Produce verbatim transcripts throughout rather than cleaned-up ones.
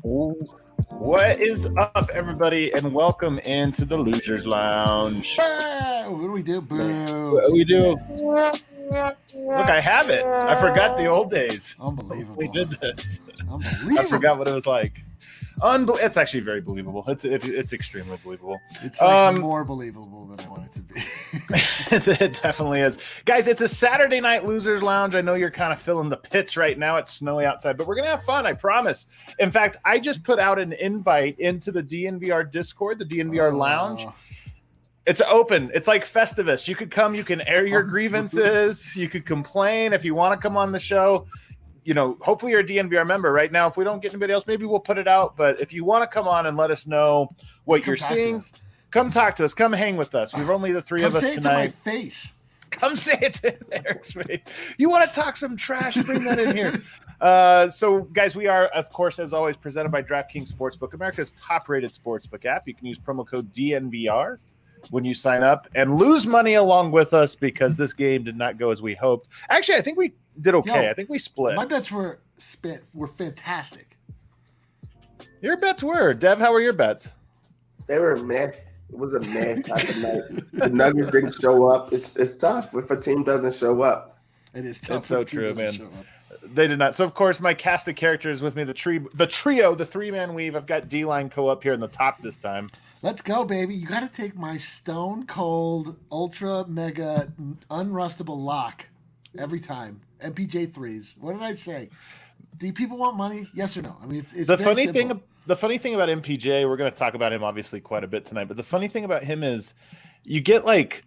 What is up, everybody, and welcome into the Losers Lounge. Ah, what do we do? Boo. What we do? Look, I have it. I forgot the old days. Unbelievable. We did this. Unbelievable. I forgot what it was like. Unbe- it's actually very believable. It's it, it's extremely believable. It's like um, more believable than I want it to be. It definitely is. Guys, it's a Saturday night Losers Lounge. I know you're kind of feeling the pits right now. It's snowy outside, but we're going to have fun, I promise. In fact, I just put out an invite into the D N V R Discord, the D N V R Oh. Lounge. It's open. It's like Festivus. You could come. You can air your grievances. You could complain if you want to come on the show. You know, hopefully you're a D N V R member right now. If we don't get anybody else, maybe we'll put it out. But if you want to come on and let us know what Come you're talk to seeing, us. come talk to us. Come hang with us. We've only the three Come of us say it to my tonight. face. Come say it to Eric's face. You want to talk some trash? Bring that in here. Uh, so, guys, we are, of course, as always, presented by DraftKings Sportsbook, America's top-rated sportsbook app. You can use promo code D N V R when you sign up and lose money along with us because this game did not go as we hoped. Actually, I think we did okay. Yo, I think we split. My bets were spent were fantastic. Your bets were. Dev, how were your bets? They were meh. It was a meh type of night. The Nuggets didn't show up. It's it's tough if a team doesn't show up. It is tough. It's so when two true, doesn't man. show up. They did not. So, of course, my cast of characters with me, the tree, the trio, the three-man weave. I've got D-Line Co-up here in the top this time. Let's go, baby. You got to take my stone cold, ultra mega, unrustable lock every time. M P J threes. What did I say? Do people want money? Yes or no? I mean, it's, it's The very funny simple. thing, the funny thing about M P J, we're going to talk about him obviously quite a bit tonight. But the funny thing about him is, you get like,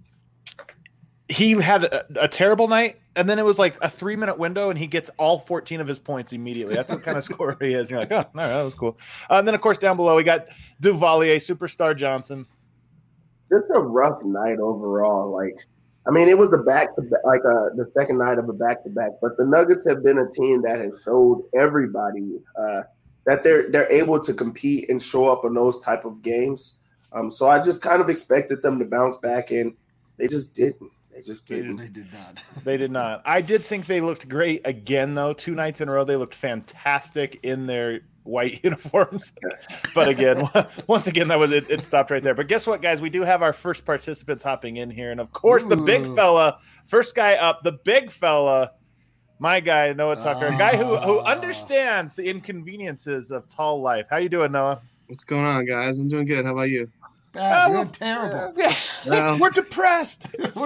he had a, a terrible night, and then it was like a three-minute window, and he gets all fourteen of his points immediately. That's what kind of scorer he is. And you're like, oh, all right, that was cool. Uh, and then, of course, down below, we got Duvalier, Superstar Johnson. It's a rough night overall. Like, I mean, it was the back to back, like uh, the second night of a back to back. But the Nuggets have been a team that has showed everybody uh, that they're they're able to compete and show up in those type of games. Um, so I just kind of expected them to bounce back, and they just didn't. They just didn't. They did not. They did not. I did think they looked great again, though. Two nights in a row, they looked fantastic in their white uniforms. But again, once again, that was it. It stopped right there. But guess what, guys? We do have our first participants hopping in here, and of course, the big Ooh. fella, first guy up, the big fella, my guy Noah Tucker, a guy who who Ah. understands the inconveniences of tall life. How you doing, Noah? What's going on, guys? I'm doing good. How about you? Bad. Uh, We're well, terrible. Yeah. Well- We're depressed.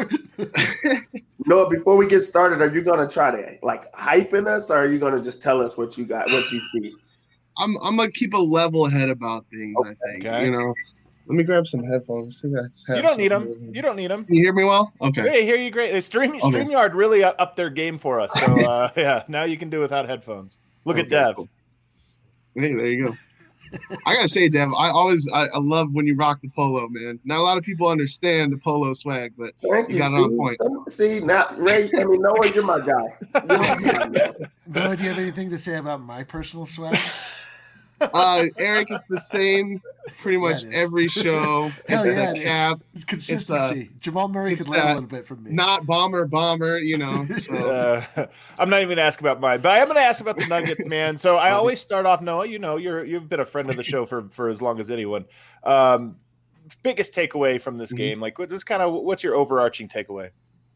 Noah, before we get started, are you gonna try to like hype in us, or are you gonna just tell us what you got, what you see? I'm I'm gonna keep a level head about things. I think Okay. you know. Let me grab some headphones. See that You don't need them. You don't need them. Can you hear me well? Okay. Hey, hear you great. Stream Okay. StreamYard really up up their game for us. So uh, yeah, now you can do without headphones. Look at Okay, Dev. cool. Hey, there you go. I gotta say, Dev, I always I, I love when you rock the polo, man. Not a lot of people understand the polo swag, but Thank You you. got See, it on point. Some- see now, Ray. I mean, Noah, you're my guy. You're my guy, man. Noah, do you have anything to say about my personal swag? uh, Eric, it's the same pretty much Yeah, it is. every show. Hell It's yeah, the cap, it's consistency. Jamal Murray it's could learn a that little bit from me. not bomber, bomber. You know. So Uh, I'm not even going to ask about mine, but I am going to ask about the Nuggets, man. So I always start off, Noah. You know, you're you've been a friend of the show for for as long as anyone. Um, biggest takeaway from this Mhm. game, like what just kind of what's your overarching takeaway?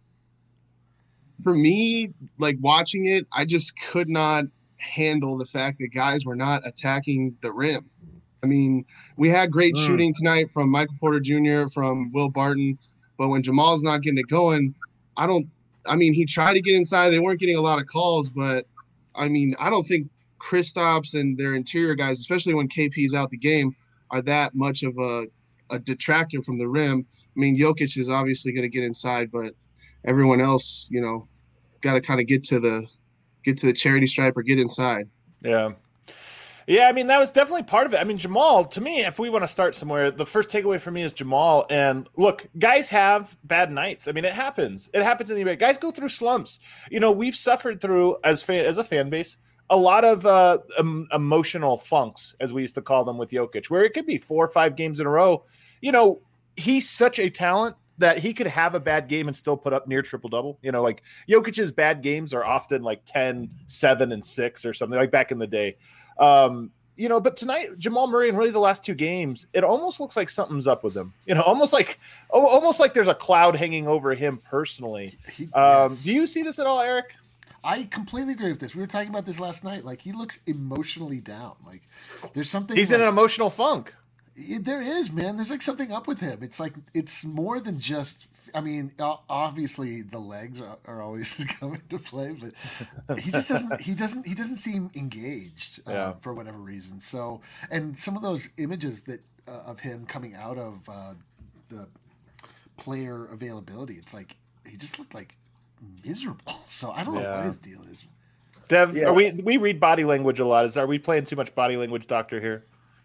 for me, like watching it, I just could not handle the fact that guys were not attacking the rim. I mean, we had great Mm. shooting tonight from Michael Porter Junior, from Will Barton, but when Jamal's not getting it going, I don't. I mean, he tried to get inside. They weren't getting a lot of calls, but I mean, I don't think Kristaps and their interior guys, especially when K P's out the game, are that much of a, a detractor from the rim. I mean, Jokic is obviously going to get inside, but everyone else, you know, got to kind of get to the get to the charity stripe or get inside. Yeah. Yeah, I mean, that was definitely part of it. I mean, Jamal, to me, if we want to start somewhere, the first takeaway for me is Jamal. And look, guys have bad nights. I mean, it happens. It happens in the N B A. Guys go through slumps. You know, we've suffered through, as fan, as a fan base, a lot of uh, um, emotional funks, as we used to call them with Jokic, where it could be four or five games in a row. You know, he's such a talent that he could have a bad game and still put up near triple-double. You know, like Jokic's bad games are often like ten, seven, and six or something, like back in the day. Um, you know, but tonight, Jamal Murray and really the last two games, it almost looks like something's up with him. You know, almost like almost like there's a cloud hanging over him personally. He, Um, yes. do you see this at all, Eric? I completely agree with this. We were talking about this last night. Like, he looks emotionally down. Like, there's something. He's like, in an emotional funk. There is, man. There's like something up with him. It's like it's more than just. I mean, obviously the legs are, are always coming to play, but he just doesn't. He doesn't. He doesn't seem engaged uh, Yeah. for whatever reason. So, and some of those images that uh, of him coming out of uh, the player availability, it's like he just looked like miserable. So I don't know Yeah. what his deal is. Dev, Yeah. are we we read body language a lot? Is are we playing too much body language doctor here?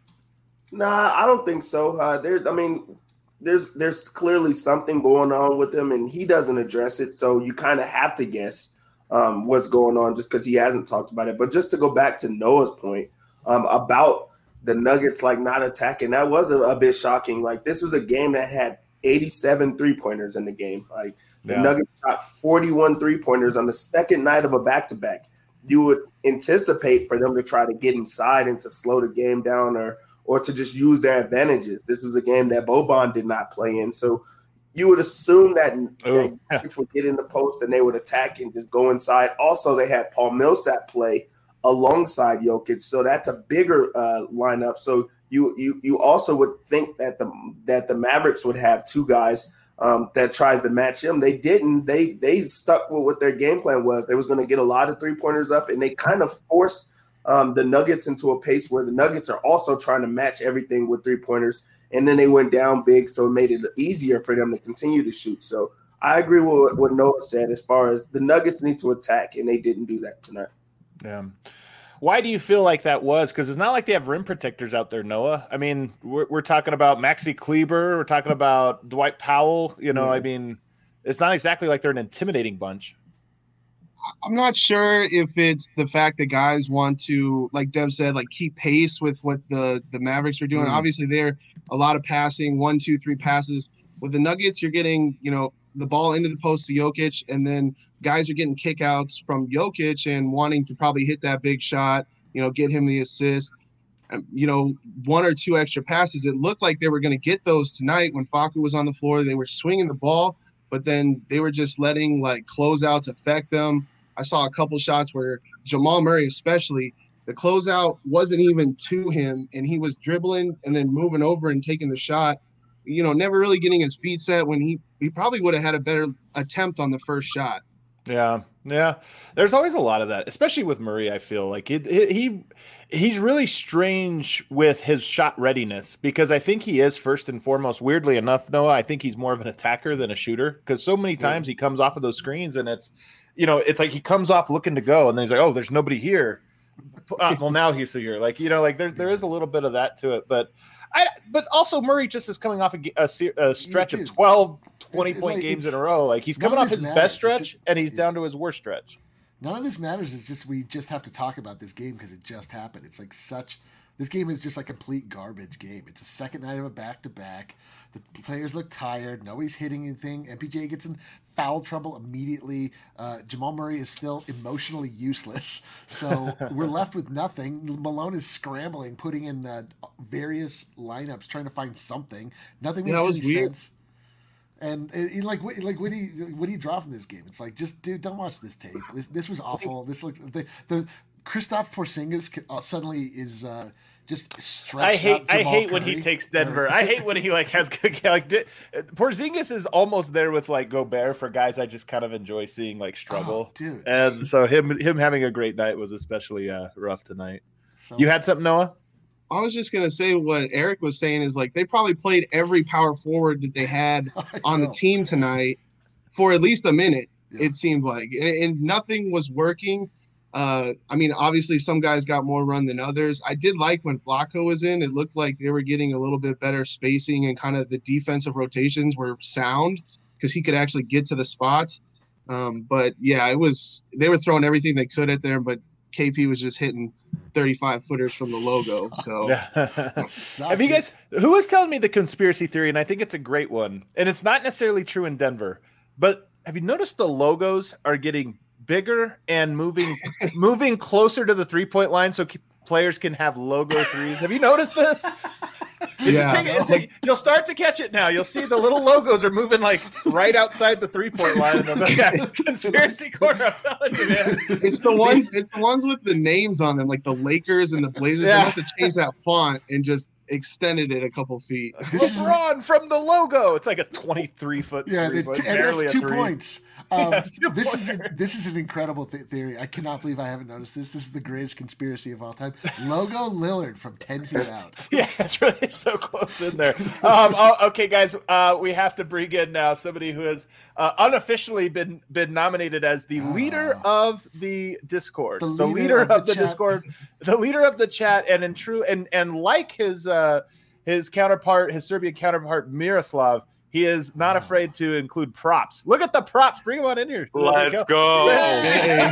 Nah, I don't think so. Uh, there, I mean, there's there's clearly something going on with him, and he doesn't address it. So you kind of have to guess um, what's going on just because he hasn't talked about it. But just to go back to Noah's point um, about the Nuggets like not attacking, that was a, a bit shocking. Like this was a game that had eighty-seven three-pointers in the game. Like the Yeah. Nuggets shot forty-one three-pointers on the second night of a back-to-back. You would anticipate for them to try to get inside and to slow the game down or or to just use their advantages. This was a game that Boban did not play in. So you would assume that, Oh, that Jokic would get in the post and they would attack and just go inside. Also, they had Paul Millsap play alongside Jokic. So that's a bigger uh, lineup. So you you you also would think that the that the Mavericks would have two guys um, that tries to match him. They didn't. They they stuck with what their game plan was. They was going to get a lot of three-pointers up, and they kind of forced Um, the Nuggets into a pace where the Nuggets are also trying to match everything with three-pointers, and then they went down big, so it made it easier for them to continue to shoot. So I agree with what Noah said as far as the Nuggets need to attack, and they didn't do that tonight. Yeah. Why do you feel like that was? Because it's not like they have rim protectors out there, Noah. I mean, we're, we're talking about Maxi Kleber. We're talking about Dwight Powell. You know, Yeah. I mean, it's not exactly like they're an intimidating bunch. I'm not sure if it's the fact that guys want to, like Dev said, like keep pace with what the, the Mavericks are doing. Mm. Obviously, they're a lot of passing, one, two, three passes. With the Nuggets, you're getting, you know, the ball into the post to Jokic, and then guys are getting kickouts from Jokic and wanting to probably hit that big shot, you know, get him the assist. Um, you know, one or two extra passes. It looked like they were going to get those tonight when Facu was on the floor. They were swinging the ball, but then they were just letting like closeouts affect them. I saw a couple shots where Jamal Murray, especially, the closeout wasn't even to him, and he was dribbling and then moving over and taking the shot. You know, never really getting his feet set when he he probably would have had a better attempt on the first shot. Yeah, yeah. There's always a lot of that, especially with Murray. I feel like he he he's really strange with his shot readiness because I think he is first and foremost. Weirdly enough, Noah, I think he's more of an attacker than a shooter because so many times he comes off of those screens and it's, you know, it's like he comes off looking to go and then he's like, oh, there's nobody here. Uh, well, now he's here. Like, you know, like there there is a little bit of that to it, but. I, but also Murray just is coming off a, a, a stretch Yeah, of dude. twelve, twenty It's point like- games it's- in a row. Like he's none coming of off this his matters. best It's stretch just- and he's yeah. down to his worst stretch. None of this matters. It's just we just have to talk about this game because it just happened. It's like such. This game is just a complete garbage game. It's a second night of a back to back. The players look tired. Nobody's hitting anything. M P J gets in foul trouble immediately. Uh, Jamal Murray is still emotionally useless. So we're left with nothing. Malone is scrambling, putting in uh, various lineups, trying to find something. Nothing Yeah, makes that was any weird. sense. And it, it, like, what- like, what do you, what do you draw from this game? It's like, just dude, don't watch this tape. This, this was awful. This looks the the Kristaps Porzingis uh, suddenly is uh, just stretched. I hate out I Jamal hate when he Curry. takes Denver. I hate when he like has like di- Porzingis is almost there with like Gobert for guys I just kind of enjoy seeing like struggle. Oh, dude. And so him him having a great night was especially uh, rough tonight. So, You had something, Noah? I was just gonna say what Eric was saying is like they probably played every power forward that they had I on the know. team tonight for at least a minute. Yeah. It seemed like, and, and nothing was working. Uh, I mean, obviously some guys got more run than others. I did like when Flacco was in. It looked like they were getting a little bit better spacing and kind of the defensive rotations were sound because he could actually get to the spots. Um, but yeah, it was they were throwing everything they could at there, but K P was just hitting thirty-five footers from the logo. So Yeah. Suck, Have you dude. guys who was telling me the conspiracy theory, and I think it's a great one, and it's not necessarily true in Denver, but have you noticed the logos are getting bigger and moving moving closer to the three-point line so players can have logo threes. Have you noticed this? It Yeah. just take, it's like, you'll start to catch it now. You'll see the little logos are moving like right outside the three point line. And the yeah, conspiracy corner. I'm telling you, man. It's the ones. It's the ones with the names on them, like the Lakers and the Blazers. Yeah. They must have changed that font and just extended it a couple feet. LeBron from the logo. It's like a twenty-three foot. Yeah, three, the, but and barely that's a two three. points. Um, Yeah, two this is a, pointers. this is an incredible th- theory. I cannot believe I haven't noticed this. This is the greatest conspiracy of all time. Logo Lillard from ten feet out. Yeah, it's really so close in there. Um, oh, okay, guys, uh, we have to bring in now somebody who has uh, unofficially been been nominated as the leader of the Discord, The the leader leader, of of, the the, chat. Discord, the leader of the chat, and in true and and like his uh, his counterpart, his Serbian counterpart Miroslav. He is not afraid to include props. Look at the props. Bring them on in here. Let's go. Yay.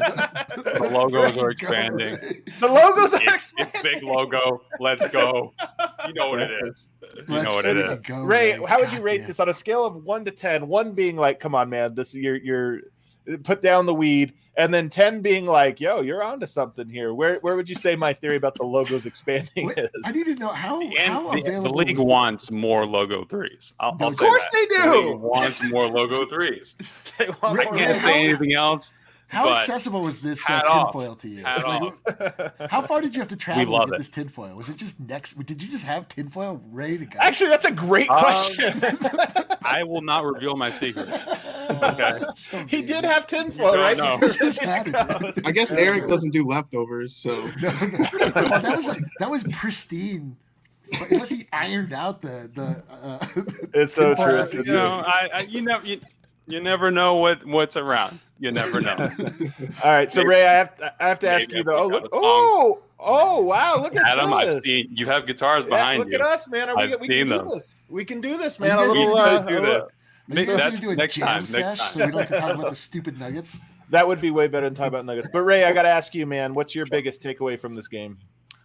The logos are expanding. The logos are It's, expanding. it's big logo. Let's go. You know what it is. You know what it Let's is. go, Ray, how would you God rate damn. this on a scale of one to ten? One being like, come on, man, this you're you're put down the weed, and then ten being like, yo, you're onto something here. Where where would you say my theory about the logos expanding Wait, is? I need to know how, And how the, the available league was- wants more logo threes. I'll, I'll Of say course that. they The do. league wants more logo threes. They want Ray- more I can't how- say anything else. How but accessible was this uh, hat off. tinfoil to you? Hat Like, off. how far did you have to travel to love get it. this tinfoil? Was it just next? Did you just have tinfoil ready to go? Actually, that's a great Um, question. I will not reveal my secret. Okay. So He mean. did have tinfoil, You right? don't know. He just had it. I guess Eric doesn't do leftovers, so No, no. Oh, that was like that was pristine. Unless he ironed out the the. Uh, It's so tinfoil true. after It's You so know, I, I you never you, you never know what what's around. You never know. All right, so Maybe- Ray, I have to, I have to ask maybe you I though. Oh, picked look, out a song. oh, oh, wow! Look at Adam, this. I've seen you have guitars Yeah, behind look you. at us, man. Are we, I've we can seen do them. this. We can do this, Are man. you A guys little, gonna uh, do a this. little- Nick, so we're that's gonna do a next jam time. sesh, Next time. so we don't have to talk about the stupid nuggets. That would be way better than talking about Nuggets. But Ray, I got to ask you, man, what's your biggest takeaway from this game?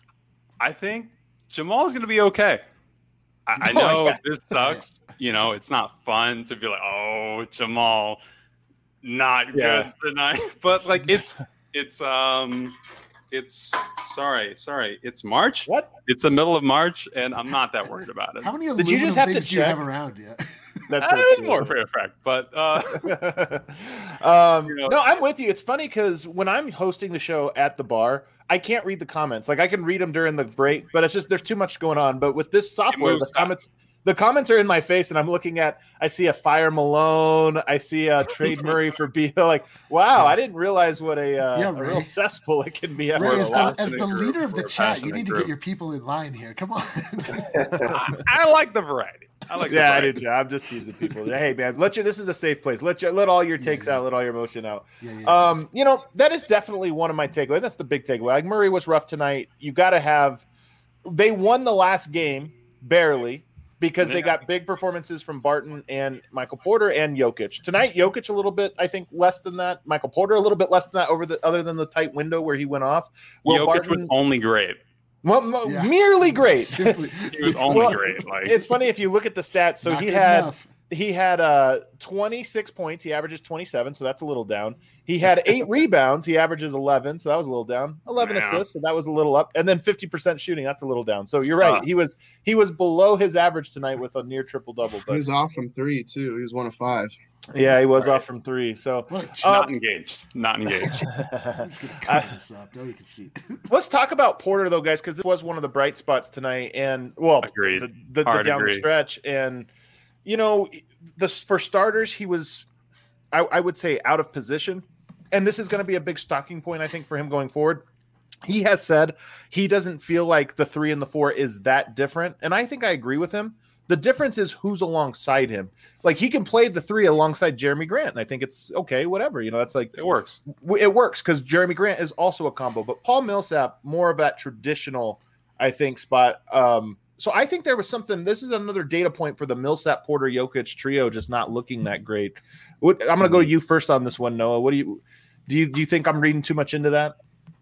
I think Jamal is going to be okay. I, I Oh, know yeah. this sucks. You know, it's not fun to be like, oh, Jamal, not Yeah. good tonight. But like, it's it's um, it's sorry, sorry, it's March. What? It's the middle of March, and I'm not that worried about it. How many Did aluminum you just have to things do you check? have around? Yeah. That's That so is true. more for effect, but uh, um, You know- no, I'm with you. It's funny because when I'm hosting the show at the bar, I can't read the comments. Like I can read them during the break, but it's just there's too much going on. But with this software, moves the fast. comments the comments are in my face, and I'm looking at. I see a Fire Malone. I see a Trade Murray for Beal. Like, wow, I didn't realize what a, uh, Yeah, a Ray. real cesspool it can be. Ray, After as a the, loss. as the group. leader of the We're a chat, you passionate need to group. get your people in line here. Come on. I, I like the variety. I like. Yeah, the I variety. do too. I'm just teasing people. Hey, man, let you. This is a safe place. Let you let all your takes Yeah, yeah. out. Let all your emotion out. Yeah, yeah. Um, you know, that is definitely one of my takeaways. That's the big takeaway. Like Murray was rough tonight. You got to have. They won the last game barely because they Yeah. got big performances from Barton and Michael Porter and Jokic. Tonight, Jokic a little bit, I think, less than that. Michael Porter a little bit less than that over the other than the tight window where he went off. Will Jokic Barton, was only great. well, mo- Yeah. merely great. Simply, He was only Well, great. Like It's funny if you look at the stats. So not he good had. enough. He had uh, twenty-six points. He averages twenty-seven, so that's a little down. He had eight rebounds. He averages eleven, so that was a little down. eleven Yeah. assists, so that was a little up. And then fifty percent shooting, that's a little down. So you're right. Uh. He was he was below his average tonight with a near triple double. he But was off from three too. He was one of five. yeah, he was Right. off from three. So What a ch- Uh, not engaged. Not engaged. I'm just gonna cover this up. Nobody can see. let's talk about Porter though, guys, because it was one of the bright spots tonight. And well, Agreed. the, the, the Hard down the agree. stretch. And you know, the for starters, he was, I, I would say, out of position. And this is going to be a big stocking point, I think, for him going forward. He has said he doesn't feel like the three and the four is that different. And I think I agree with him. The difference is who's alongside him. Like he can play the three alongside Jeremy Grant. And I think it's okay, whatever. You know, that's like It works. w- it works because Jeremy Grant is also a combo, but Paul Millsap more of that traditional, I think, spot. Um, so I think there was something. This is another data point for the Millsap Porter Jokic trio just not looking that great. What, I'm going to go to you first on this one, Noah. What do you do? You do you think I'm reading too much into that?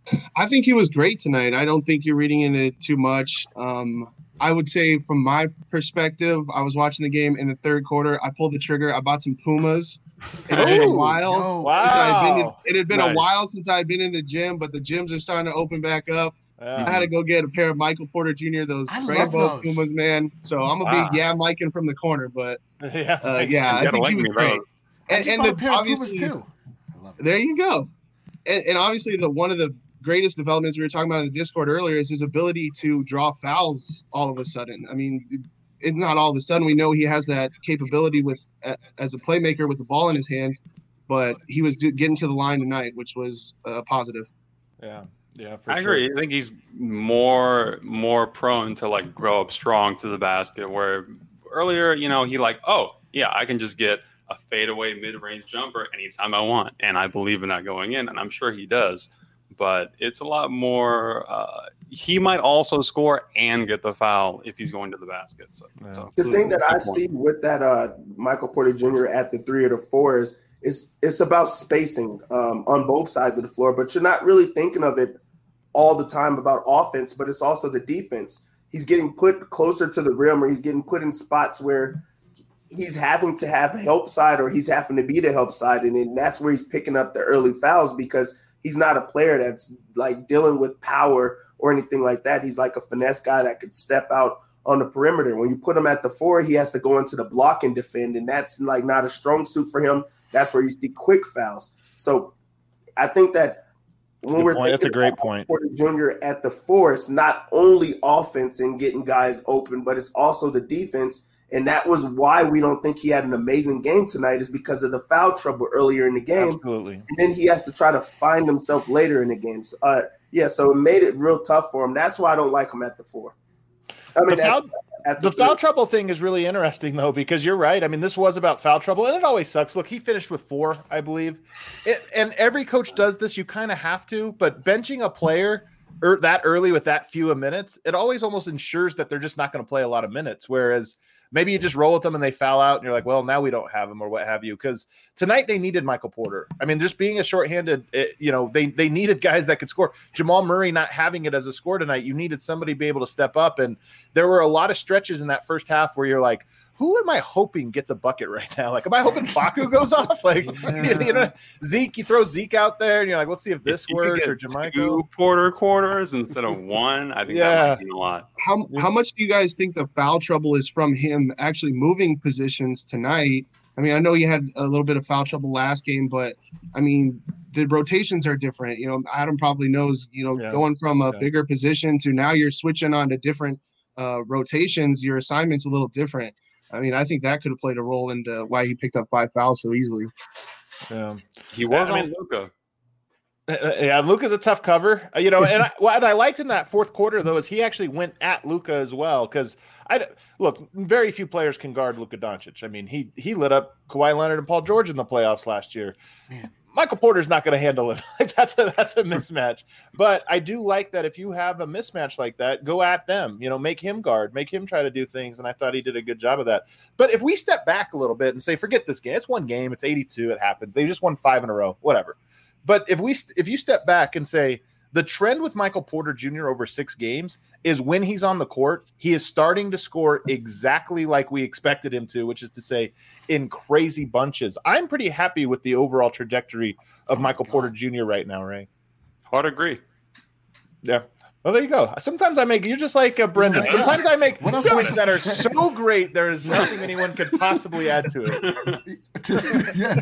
I think he was great tonight. I don't think you're reading into it too much. Um, I would say from my perspective, I was watching the game in the third quarter. I pulled the trigger. I bought some Pumas. It had been a Ooh, while. yo, wow. Since I'd been in, it had been Nice. a while since I'd been in the gym, but the gyms are starting to open back up. Yeah. I had to go get a pair of Michael Porter Junior, those I love rainbow those. Pumas, man. So I'm gonna Wow. be yeah, Miking from the corner, but yeah, uh, thanks. yeah, You I gotta think like he was me, great. though. I And, just and bought the, a pair of Pumas obviously, too. I love it. there you go. And, and obviously, the one of the greatest developments we were talking about in the Discord earlier is his ability to draw fouls all of a sudden. I mean, it's not all of a sudden. We know he has that capability with uh, as a playmaker with the ball in his hands, but he was do, getting to the line tonight, which was uh, positive. Yeah, yeah, for I sure. agree. I think he's more more prone to like grow up strong to the basket. Where earlier, you know, he like, oh yeah, I can just get a fadeaway mid range jumper anytime I want, and I believe in that going in, and I'm sure he does. But it's a lot more. Uh, he might also score and get the foul if he's going to the basket. So, Yeah. so The thing that I good point. see with that uh, Michael Porter Junior at the three or the four is it's, it's about spacing um, on both sides of the floor, but you're not really thinking of it all the time about offense, but it's also the defense. He's getting put closer to the rim, or he's getting put in spots where he's having to have help side, or he's having to be the help side, and then that's where he's picking up the early fouls because he's not a player that's like dealing with power or anything like that. He's like a finesse guy that could step out on the perimeter. When you put him at the four, he has to go into the block and defend, and that's like not a strong suit for him. That's where you see quick fouls. So I think that when Good we're point. That's a thinking great about point. Porter Junior at the four, it's not only offense and getting guys open, but it's also the defense. And that was why we don't think he had an amazing game tonight, is because of the foul trouble earlier in the game. Absolutely. And then he has to try to find himself later in the game. So, uh, yeah, so it made it real tough for him. That's why I don't like him at the four. I mean, The foul, at, at the the foul three. trouble thing is really interesting, though, because you're right. I mean, this was about foul trouble, and it always sucks. Look, he finished with four, I believe. It, and every coach does this. You kind of have to. But benching a player er, that early with that few of minutes, it always almost ensures that they're just not going to play a lot of minutes, whereas – maybe you just roll with them and they foul out and you're like, well, now we don't have him or what have you. Because tonight they needed Michael Porter. I mean, just being a shorthanded, it, you know, they they needed guys that could score. Jamal Murray not having it as a score tonight, you needed somebody to be able to step up. And there were a lot of stretches in that first half where you're like, who am I hoping gets a bucket right now? Like, am I hoping Facu goes off? Like, Yeah. you know, Zeke, you throw Zeke out there and you're like, let's see if this If you could works get or Jermichael. two Porter quarters instead of one, I think Yeah. that might mean a lot. How how much do you guys think the foul trouble is from him actually moving positions tonight? I mean, I know you had a little bit of foul trouble last game, but I mean, the rotations are different. You know, Adam probably knows, you know, Yeah. going from a Yeah. bigger position to now you're switching on to different uh, rotations, your assignment's a little different. I mean, I think that could have played a role into why he picked up five fouls so easily. Yeah. He was I on mean- Luka. Uh, Yeah, Luka's a tough cover, uh, you know. And I, what I liked in that fourth quarter, though, is he actually went at Luka as well. Because I look, very few players can guard Luka Doncic. I mean, he he lit up Kawhi Leonard and Paul George in the playoffs last year. Man. Michael Porter's not going to handle it. Like that's a that's a mismatch. But I do like that if you have a mismatch like that, go at them. You know, make him guard, make him try to do things. And I thought he did a good job of that. But if we step back a little bit and say, forget this game, it's one game, it's eighty-two, it happens. They just won five in a row, whatever. But if we if you step back and say the trend with Michael Porter Junior over six games is when he's on the court, he is starting to score exactly like we expected him to, which is to say in crazy bunches. I'm pretty happy with the overall trajectory of Oh my Michael God. Porter Junior right now, Ray. Hard agree. Yeah. Well, there you go. Sometimes I make, you're just like uh, Brendan. Yeah. Sometimes I make What else points was that I are saying? so great, there is nothing anyone could possibly add to it. yeah.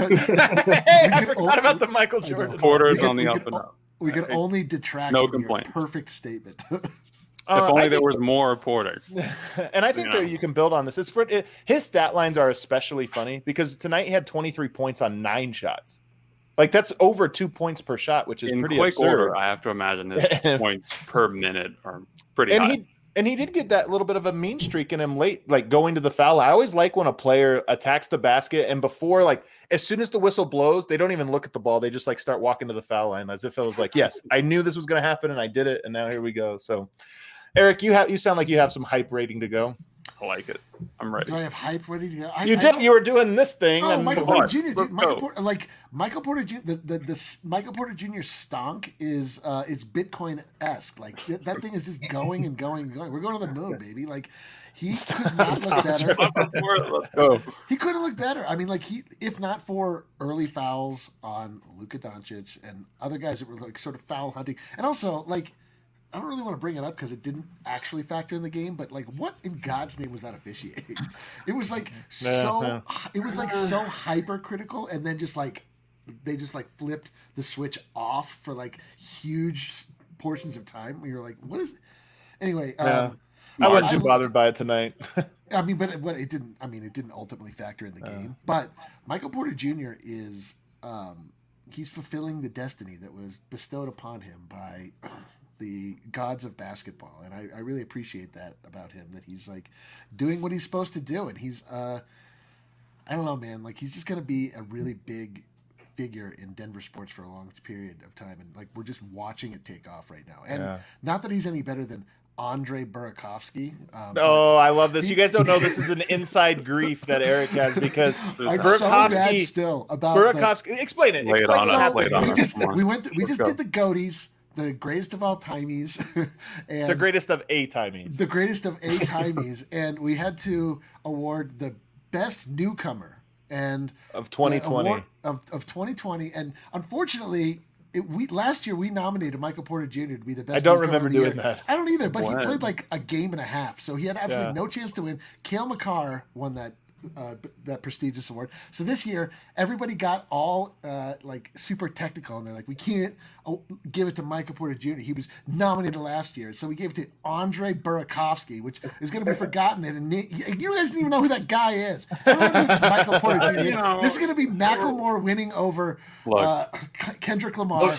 Hey, I We could forgot all- about the Michael I know. Jordan. Porter's We could- on the we up could and all- up. We can only detract No from your complaints. perfect statement. Uh, if only I there think- was more Porter. And I think You that know. you can build on this. It's for, it, his stat lines are especially funny because tonight he had twenty-three points on nine shots. Like that's over two points per shot, which is In pretty quick absurd. order, I have to imagine his points per minute are pretty and high. he and he did get that little bit of a mean streak in him late, like going to the foul. I always like when a player attacks the basket and before, like as soon as the whistle blows, they don't even look at the ball. They just like start walking to the foul line as if it was like, yes, I knew this was going to happen and I did it, and now here we go. So, Eric, you have you sound like you have some hype rating to go. I like it. I'm ready. Do I have hype ready to go? I, You I did. don't- You were doing this thing. Oh, and Michael come on. Porter Junior Let's Michael go. Porter, like Michael Porter Junior The, the the s- Michael Porter Junior stonk is uh, it's Bitcoin esque. Like th- that thing is just going and going and going. We're going to the moon, baby. Like he could not look better. Let's go. He couldn't look better. I mean, like he, if not for early fouls on Luka Doncic and other guys that were like sort of foul hunting, and also like. I don't really want to bring it up because it didn't actually factor in the game, but like, what in God's name was that officiating? It was like so, yeah. it was like so hypercritical, and then just like they just like flipped the switch off for like huge portions of time. We were like, what is? Anyway, Yeah. um, I wasn't I too looked- bothered by it tonight. I mean, but it, but it didn't. I mean, it didn't ultimately factor in the game. But Michael Porter Junior is um, he's fulfilling the destiny that was bestowed upon him by the gods of basketball, and I, I really appreciate that about him. That he's like doing what he's supposed to do, and he's uh, I don't know, man. Like he's just gonna be a really big figure in Denver sports for a long period of time, and like we're just watching it take off right now. And Yeah. not that he's any better than Andre Burakovsky. Um, but- Oh, I love this. You guys don't know this is an inside grief that Eric has because I'm Burakovsky- so mad still about the- Burakovsky. Explain it. Lay it Explain on what us, happened. lay it on we us. just Come on. we went to, we Let's just go. did the Goaties, the greatest of all timies, and The greatest of a timies. the greatest of a timies, and we had to award the best newcomer and Of twenty the twenty. award of of twenty twenty, and unfortunately. It, we last year we nominated Michael Porter Junior to be the best. I don't newcomer remember of the doing year. that. I don't either, but When? he played like a game and a half, so he had absolutely Yeah. no chance to win. Cale Makar won that uh, b- that prestigious award. So this year, everybody got all uh, like super technical, and they're like, we can't oh, give it to Michael Porter Junior He was nominated last year, so we gave it to Andre Burakovsky, which is going to be forgotten. And you guys didn't even know who that guy is. Everyone knew who Michael Porter Junior is. You know. This is going to be Macklemore winning over Look. uh, Kendrick Lamar.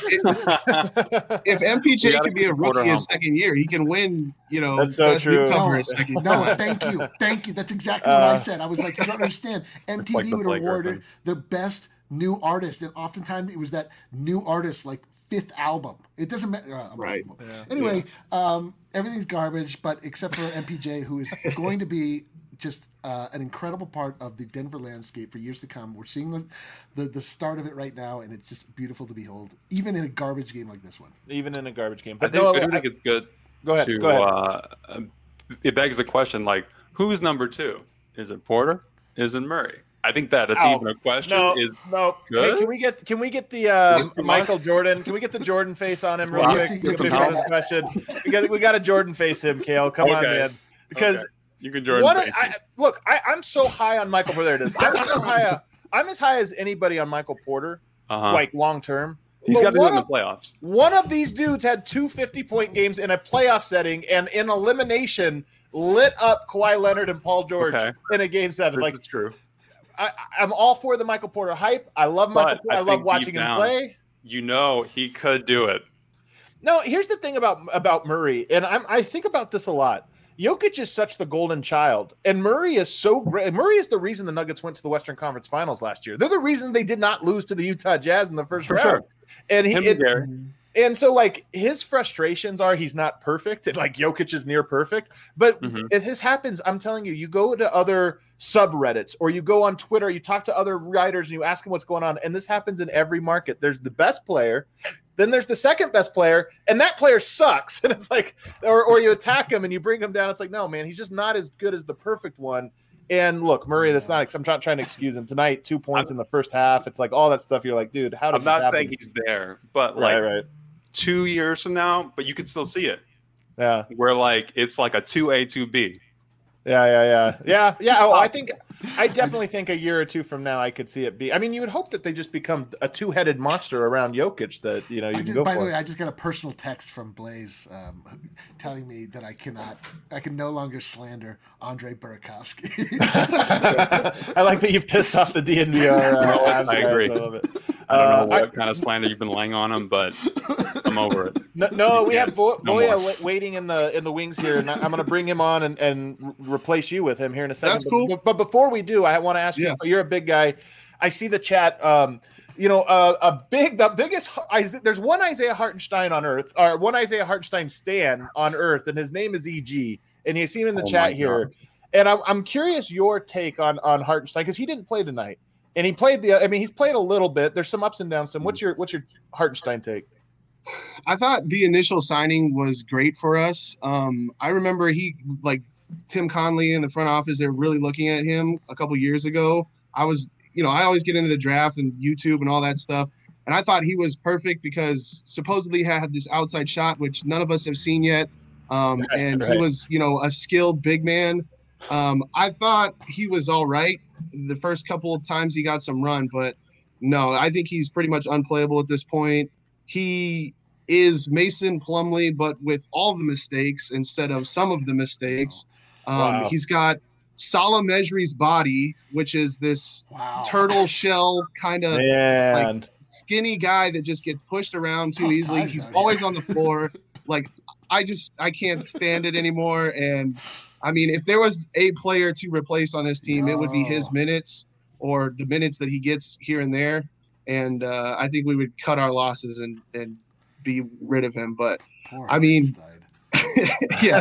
If M P J We gotta can be a keep Porter rookie his humble. second year, he can win. You know, That's so best true. newcomer No, his second no, year. thank you, thank you. That's exactly what I Uh, said. I was like, you don't understand. M T V like the would Blake award Griffin. it the best new artist, and oftentimes it was that new artist like fifth album. It doesn't matter. Uh, Right. unbelievable. Anyway, um, everything's garbage, but except for M P J, who is going to be just uh, an incredible part of the Denver landscape for years to come. We're seeing the, the the start of it right now, and it's just beautiful to behold, even in a garbage game like this one. Even in a garbage game. I But think, no, I do I- think it's good go ahead. to. Go ahead. Uh, um, it begs the question: like, who's number two? Is it Porter? Is it Murray? I think that it's Ow. even a question. No, Is no. good? Hey, can we get can we get the uh, Yes, Michael Jordan? Can we get the Jordan face on him real Well, quick? you have To to- finish you have to- this question. We got we got to Jordan face him, Kale. Come on, Okay. man. Because Okay. you can Jordan? what face I, it. look, I, I'm so high on Michael Porter. There it is. I'm so high. I'm as high as anybody on Michael Porter, Uh-huh. like long term. He's But got to do it one in the of- playoffs. One of these dudes had two fifty-point games in a playoff setting, and in elimination, lit up Kawhi Leonard and Paul George Okay. in a game seven. This Like is true. I, I'm all for the Michael Porter hype. I love Michael. But Porter. I I, love think watching deep him down- play. You know he could do it. No, here's the thing about about Murray, and I'm, I think about this a lot. Jokic is such the golden child, and Murray is so great. Murray is the reason the Nuggets went to the Western Conference Finals last year. They're the reason they did not lose to the Utah Jazz in the first For round. sure. And he, Him it- and Gary. and so like his frustrations are he's not perfect, and like Jokic is near perfect. But Mhm. if this happens, I'm telling you, you go to other subreddits or you go on Twitter, you talk to other writers, and you ask them what's going on. And this happens in every market. There's the best player, then there's the second best player, and that player sucks. And it's like, or or you attack him and you bring him down. It's like, no, man, he's just not as good as the perfect one. And look, Murray, that's not. I'm not trying to excuse him tonight. Two points in the first half. It's like all that stuff. You're like, dude, how does I'm this not happen? saying he's there, but right, like right, two years from now, but you can still see it. yeah. Where like it's like a two A, two B. Yeah, yeah, yeah, yeah, yeah. Oh, I think, I definitely think a year or two from now, I could see it be. I mean, you would hope that they just become a two-headed monster around Jokic that you know you I can just, go by for. the way, I just got a personal text from Blaze um, telling me that I cannot, I can no longer slander Andre Burakovsky. I like that you've pissed off the D N V R. Uh, No, Avs I guys. agree. I love it. I don't Uh, know what kind of slander you've been laying on him, but I'm over it. No, no, we Yeah, have Vo- no Voya more. wa- waiting in the in the wings here, and I- I'm going to bring him on and, and re- replace you with him here in a second. That's But- cool. But, but before we do, I want to ask Yeah. you. You're a big guy. I see the chat. Um, you know, uh, a big, the biggest. Isa- There's one Isaiah Hartenstein on Earth, or one Isaiah Hartenstein stan on Earth, and his name is E G. And you see him in the Oh chat my here. God. And I'm I'm curious your take on on Hartenstein because he didn't play tonight, and he played the. I mean, he's played a little bit. There's some ups and downs. So what's your what's your Hartenstein take? I thought the initial signing was great for us. Um, I remember he like Tim Conley in the front office. They were really looking at him a couple years ago. I was, you know, I always get into the draft and YouTube and all that stuff. And I thought he was perfect because supposedly he had this outside shot, which none of us have seen yet. Um, Right, and right. he was, you know, a skilled big man. Um, I thought he was all right the first couple of times he got some run, but no, I think he's pretty much unplayable at this point. He is Mason Plumlee, but with all the mistakes instead of some of the mistakes. Um, Wow. He's got Salah Mejri's body, which is this Wow. turtle shell kind of Man, skinny guy that just gets pushed around too Tough easily. times He's out always here. on the floor. Like, I just I can't stand it anymore. And I mean, if there was a player to replace on this team, it would be his No. minutes or the minutes that he gets here and there. And uh, I think we would cut our losses and and be rid of him. But Poor I mean- Hartenstein. yeah,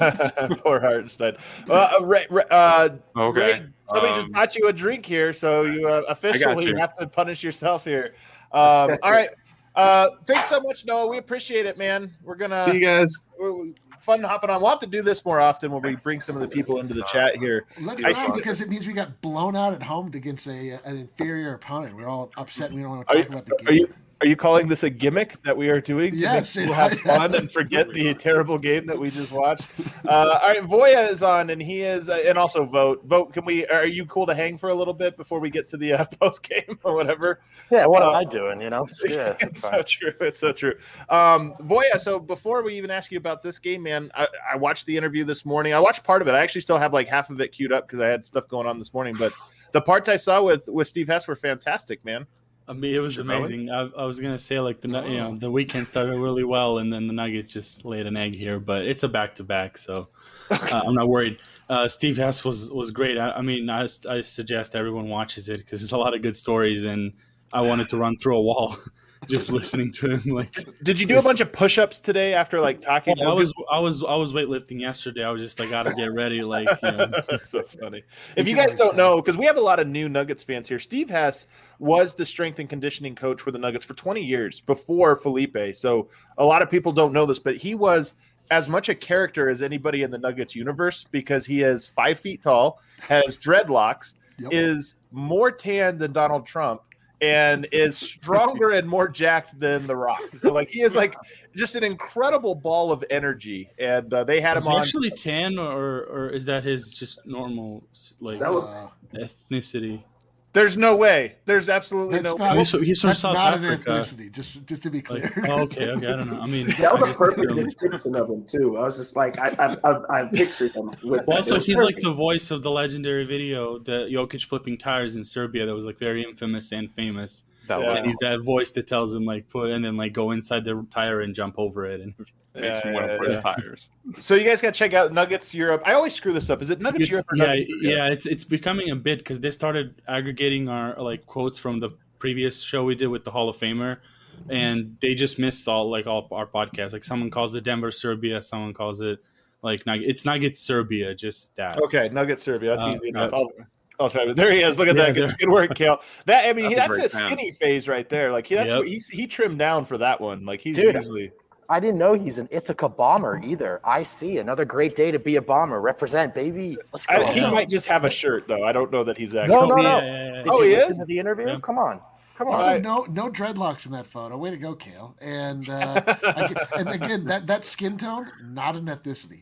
poor Hartenstein. Uh, uh, Ray, Ray- uh, Okay. Ray, somebody just Um, bought you a drink here, so you uh, officially you. have to punish yourself here. Um, all right. Uh, thanks so much, Noah. We appreciate it, man. We're gonna see you guys. we're- fun hopping on. We'll have to do this more often when we bring some of the people into the chat here. Let's I not see- because it means we got blown out at home against a an inferior opponent. We're all upset. We don't want to Are talk you, about the game. are you are you calling this a gimmick that we are doing to Yes, make people yeah. have fun and forget the terrible game that we just watched? Uh, all right, Voya is on, and he is, uh, and also Vote. Vote, can we? Are you cool to hang for a little bit before we get to the uh, post game or whatever? Yeah, what Uh, am I doing? You know? Yeah, It's fine. so true. It's so true. Um, Voya, so before we even ask you about this game, man, I, I watched the interview this morning. I watched part of it. I actually still have like half of it queued up because I had stuff going on this morning. But the parts I saw with with Steve Hess were fantastic, man. I mean, it was Really? amazing. I, I was gonna say like the Nu- you know the weekend started really well, and then the Nuggets just laid an egg here. But it's a back to back, so uh, I'm not worried. Uh, Steve Hess was was great. I, I mean, I, I suggest everyone watches it because there's a lot of good stories, and I wanted to run through a wall just listening to him. Like, Did you do a bunch of push-ups today after like talking? I was I was I was weightlifting yesterday. I was just like, gotta get ready. Like, you know. That's so funny. If You you can guys don't understand. know, because we have a lot of new Nuggets fans here, Steve Hess was the strength and conditioning coach for the Nuggets for twenty years before Felipe. So a lot of people don't know this, but he was as much a character as anybody in the Nuggets universe because he is five feet tall, has dreadlocks, Yep. is more tan than Donald Trump, and is stronger and more jacked than The Rock. So like he is like just an incredible ball of energy. And uh, they had Is him he on. actually tan, or or is that his just normal like That was- Uh, ethnicity? There's no way. There's absolutely That's no not- way. He's, he's from that's South not Africa. an ethnicity. Just just to be clear. Like, oh, okay, okay, I don't know. I mean, That I was a just perfect assumed- description of him too. I was just like, I I I, I pictured him with. Well, that. also, It was he's like perfect. the voice of the legendary video, the Jokic flipping tires in Serbia, that was like very infamous and famous. That Yeah. was And he's that voice that tells him like put and then like go inside the tire and jump over it. And makes Yeah, me want yeah, to put his yeah. tires. So you guys got to check out Nuggets Europe. I always screw this up. Is it Nuggets Europe or yeah, Nuggets yeah, Europe? it's it's becoming a bit because they started aggregating our like quotes from the previous show we did with the Hall of Famer, and they just missed all like all our podcasts. Like someone calls it Denver Serbia, someone calls it like Nug- it's Nuggets Serbia, just that. Okay, Nuggets Serbia. That's Uh, easy enough. uh, I'll, I'll try. There he is. Look at Yeah, that. Good, there- good work, Kale. That I mean, That's a that's great a fan. skinny phase right there. Like he, that's Yep. what he's, he trimmed down for that one. Like he's Dude. usually. I didn't know he's an Ithaca bomber either. I see. Another great day to be a bomber. Represent, baby. Let's go. I, he Yeah. might just have a shirt though. I don't know that he's actually. No, no, Oh, no. yeah, yeah, yeah. Did Oh, you he listen is? to the interview? Yeah. Come on. Come on. Also, Right. no no dreadlocks in that photo. Way to go, Kale. And uh, again, and again, that, that skin tone, not an ethnicity.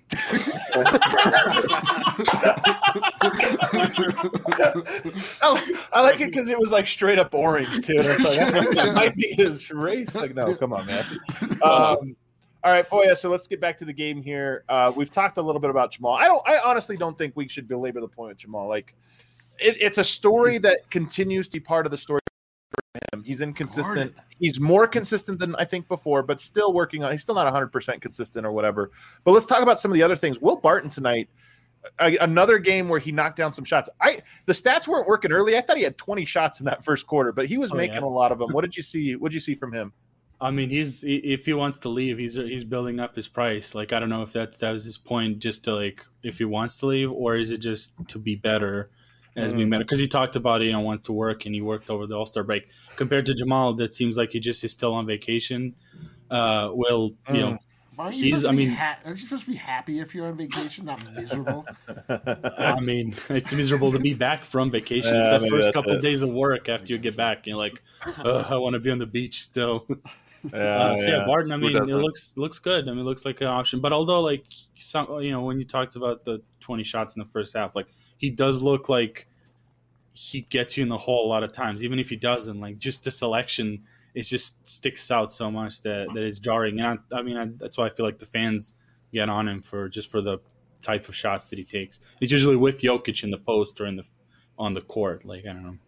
Oh, I like it because it was like straight up orange too. And it's like, that might be his race. Like, no, come on, man. Um, all right, Boya. So let's get back to the game here. Uh, we've talked a little bit about Jamal. I don't. I honestly don't think we should belabor the point with Jamal. Like, it, it's a story that continues to be part of the story for him. He's inconsistent. Guarded. He's more consistent than I think before, but still working on. He's still not one hundred percent consistent or whatever. But let's talk about some of the other things. Will Barton tonight. A, another game where he knocked down some shots. I the stats weren't working early. I thought he had twenty shots in that first quarter, but he was Oh, making yeah. a lot of them. What did you see? What did you see from him? I mean, he's if he wants to leave, he's he's building up his price. Like I don't know if that that was his point, just to like if he wants to leave, or is it just to be better as mm. being better? Because he talked about it, you know, wants to work, and he worked over the All-Star break. Compared to Jamal, that seems like he just is still on vacation. Uh, will you mm. know? Aren't you he's. I mean, ha- aren't you supposed to be happy if you're on vacation, not miserable? I mean, it's miserable to be back from vacation. Yeah, it's the first couple of days of work after you get back. You're like, I want to be on the beach still. Yeah, uh, so yeah, yeah, Barton. I mean, it looks looks good. I mean, it looks like an option. But although, like, some, you know, when you talked about the twenty shots in the first half, like, he does look like he gets you in the hole a lot of times. Even if he doesn't, like, just the selection, it just sticks out so much that, that it's jarring. And I, I mean, I, that's why I feel like the fans get on him for just for the type of shots that he takes. It's usually with Jokic in the post or in the on the court. Like, I don't know.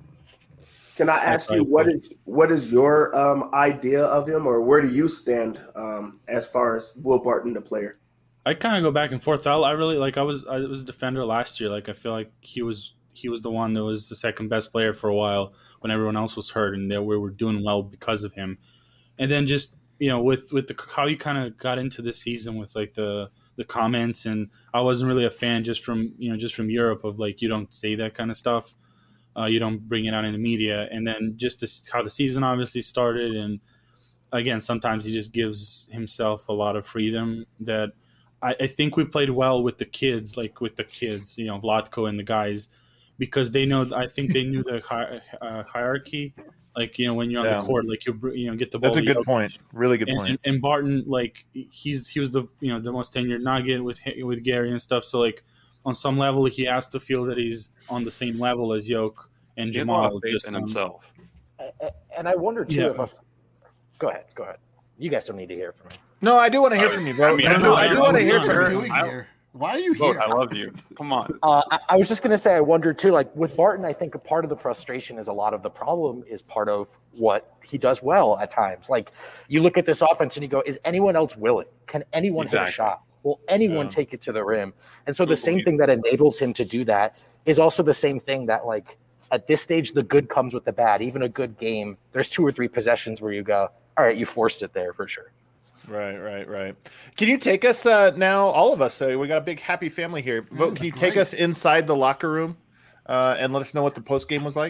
Can I ask you what is what is your um, idea of him, or where do you stand um, as far as Will Barton, the player? I kind of go back and forth. I, I really like. I was I was a defender last year. Like I feel like he was he was the one that was the second best player for a while when everyone else was hurt, and that we were doing well because of him. And then just you know with with the how you kind of got into this season with like the the comments, and I wasn't really a fan just from you know just from Europe of like you don't say that kind of stuff. Uh, you don't bring it out in the media. And then just this, how the season obviously started. And again, sometimes he just gives himself a lot of freedom that I, I think we played well with the kids, like with the kids, you know, Vlatko and the guys, because they know, I think they knew the hi, uh, hierarchy. Like, you know, when you're on yeah. the court, like you, you know, get the ball. That's a good point. Really good and, point. And, and Barton, like he's, he was the, you know, the most tenured Nugget with, with Gary and stuff. So like, on some level, he has to feel that he's on the same level as Yoke and he Jamal. Just in himself. And I wonder too yeah. if. A, go ahead, go ahead. You guys don't need to hear from me. No, I do want to hear from you, bro. I, mean, I, I do, I do want to hear from you. Here? Why are you Vote, here? I love you. Come on. Uh, I, I was just going to say, I wonder too. Like with Barton, I think a part of the frustration is a lot of the problem is part of what he does well at times. Like you look at this offense and you go, "Is anyone else willing? Can anyone exactly. hit a shot?" Will anyone yeah. take it to the rim? And so the same thing that enables him to do that is also the same thing that, like, at this stage, the good comes with the bad. Even a good game, there's two or three possessions where you go, all right, you forced it there for sure. Right, right, right. Can you take us uh, now, all of us, uh, we got a big happy family here. Vote, can you great. take us inside the locker room uh, and let us know what the post game was like?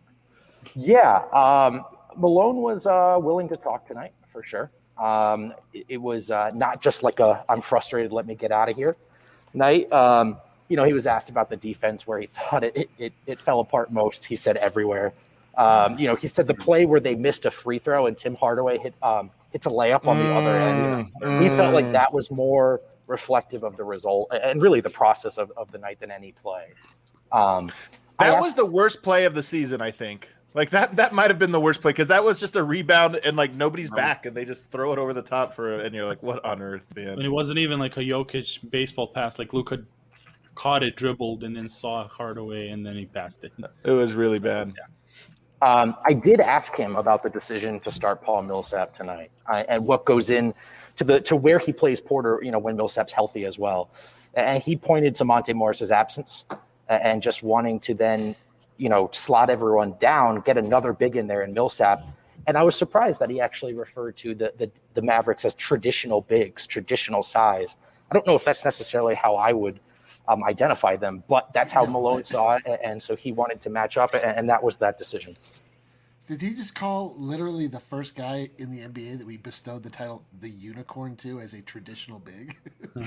Yeah. Um, Malone was uh, willing to talk tonight for sure. Um, it, it was uh, not just like a I'm frustrated, let me get out of here night. Um, you know, he was asked about the defense where he thought it it, it, it fell apart most. He said everywhere. Um, you know, he said the play where they missed a free throw and Tim Hardaway hit um, hits a layup on the mm, other end. Mm. He felt like that was more reflective of the result and really the process of, of the night than any play. Um, that asked, was the worst play of the season, I think. Like that, that might have been the worst play because that was just a rebound and like nobody's back and they just throw it over the top for and you're like, what on earth, man? And it wasn't even like a Jokic baseball pass. Like Luka caught it, dribbled, and then saw Hardaway and then he passed it. It was really bad. Yeah. Um, I did ask him about the decision to start Paul Millsap tonight uh, and what goes in to the to where he plays Porter. You know, when Millsap's healthy as well, and he pointed to Monte Morris's absence and just wanting to then, you know, slot everyone down, get another big in there in Millsap. And I was surprised that he actually referred to the, the, the Mavericks as traditional bigs, traditional size. I don't know if that's necessarily how I would um, identify them, but that's how Malone saw it. And so he wanted to match up, and that was that decision. Did he just call literally the first guy in the N B A that we bestowed the title the Unicorn to as a traditional big?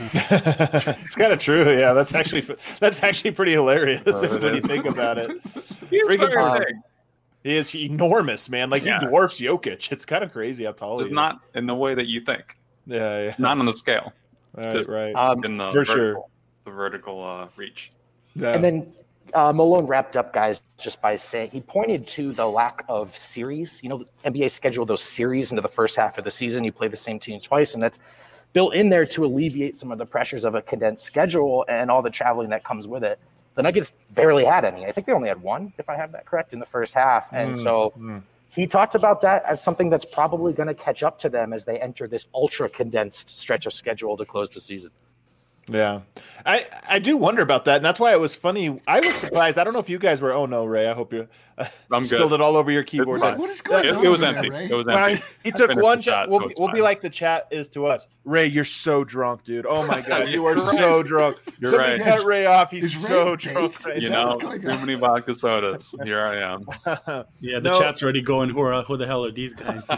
It's kind of true. Yeah, that's actually that's actually pretty hilarious uh, when you think about it. He's very um, big. He is enormous, man. Like yeah. he dwarfs Jokic. It's kind of crazy how tall Just he is. Not in the way that you think. Yeah, yeah. Not on the scale. Right, Just right. Um, in the for vertical, sure. The vertical uh, reach. Yeah. And then uh, Malone wrapped up, guys, just by saying he pointed to the lack of series. You know, the N B A scheduled those series into the first half of the season. You play the same team twice, and that's built in there to alleviate some of the pressures of a condensed schedule and all the traveling that comes with it. The Nuggets barely had any. I think they only had one, if I have that correct, in the first half. And mm, so mm. he talked about that as something that's probably going to catch up to them as they enter this ultra condensed stretch of schedule to close the season. Yeah, I I do wonder about that, and that's why it was funny. I was surprised. I don't know if you guys were. Oh no, Ray. I hope you uh, I'm spilled good. it all over your keyboard. fine. What is going It, on? it was over empty. There, Ray? It was Well, empty. he took finished one the shot. shot, We'll, so it's we'll be fine. like the chat is to us. Ray, you're so drunk, dude. Oh my god, you are so drunk. You're Somebody right. cut Ray off. He's Is Ray so baked? drunk. Right Is You that know, what's going too on? many vodka sodas. Here I am. now. Yeah, the No. chat's already going. Who are who the hell are these guys?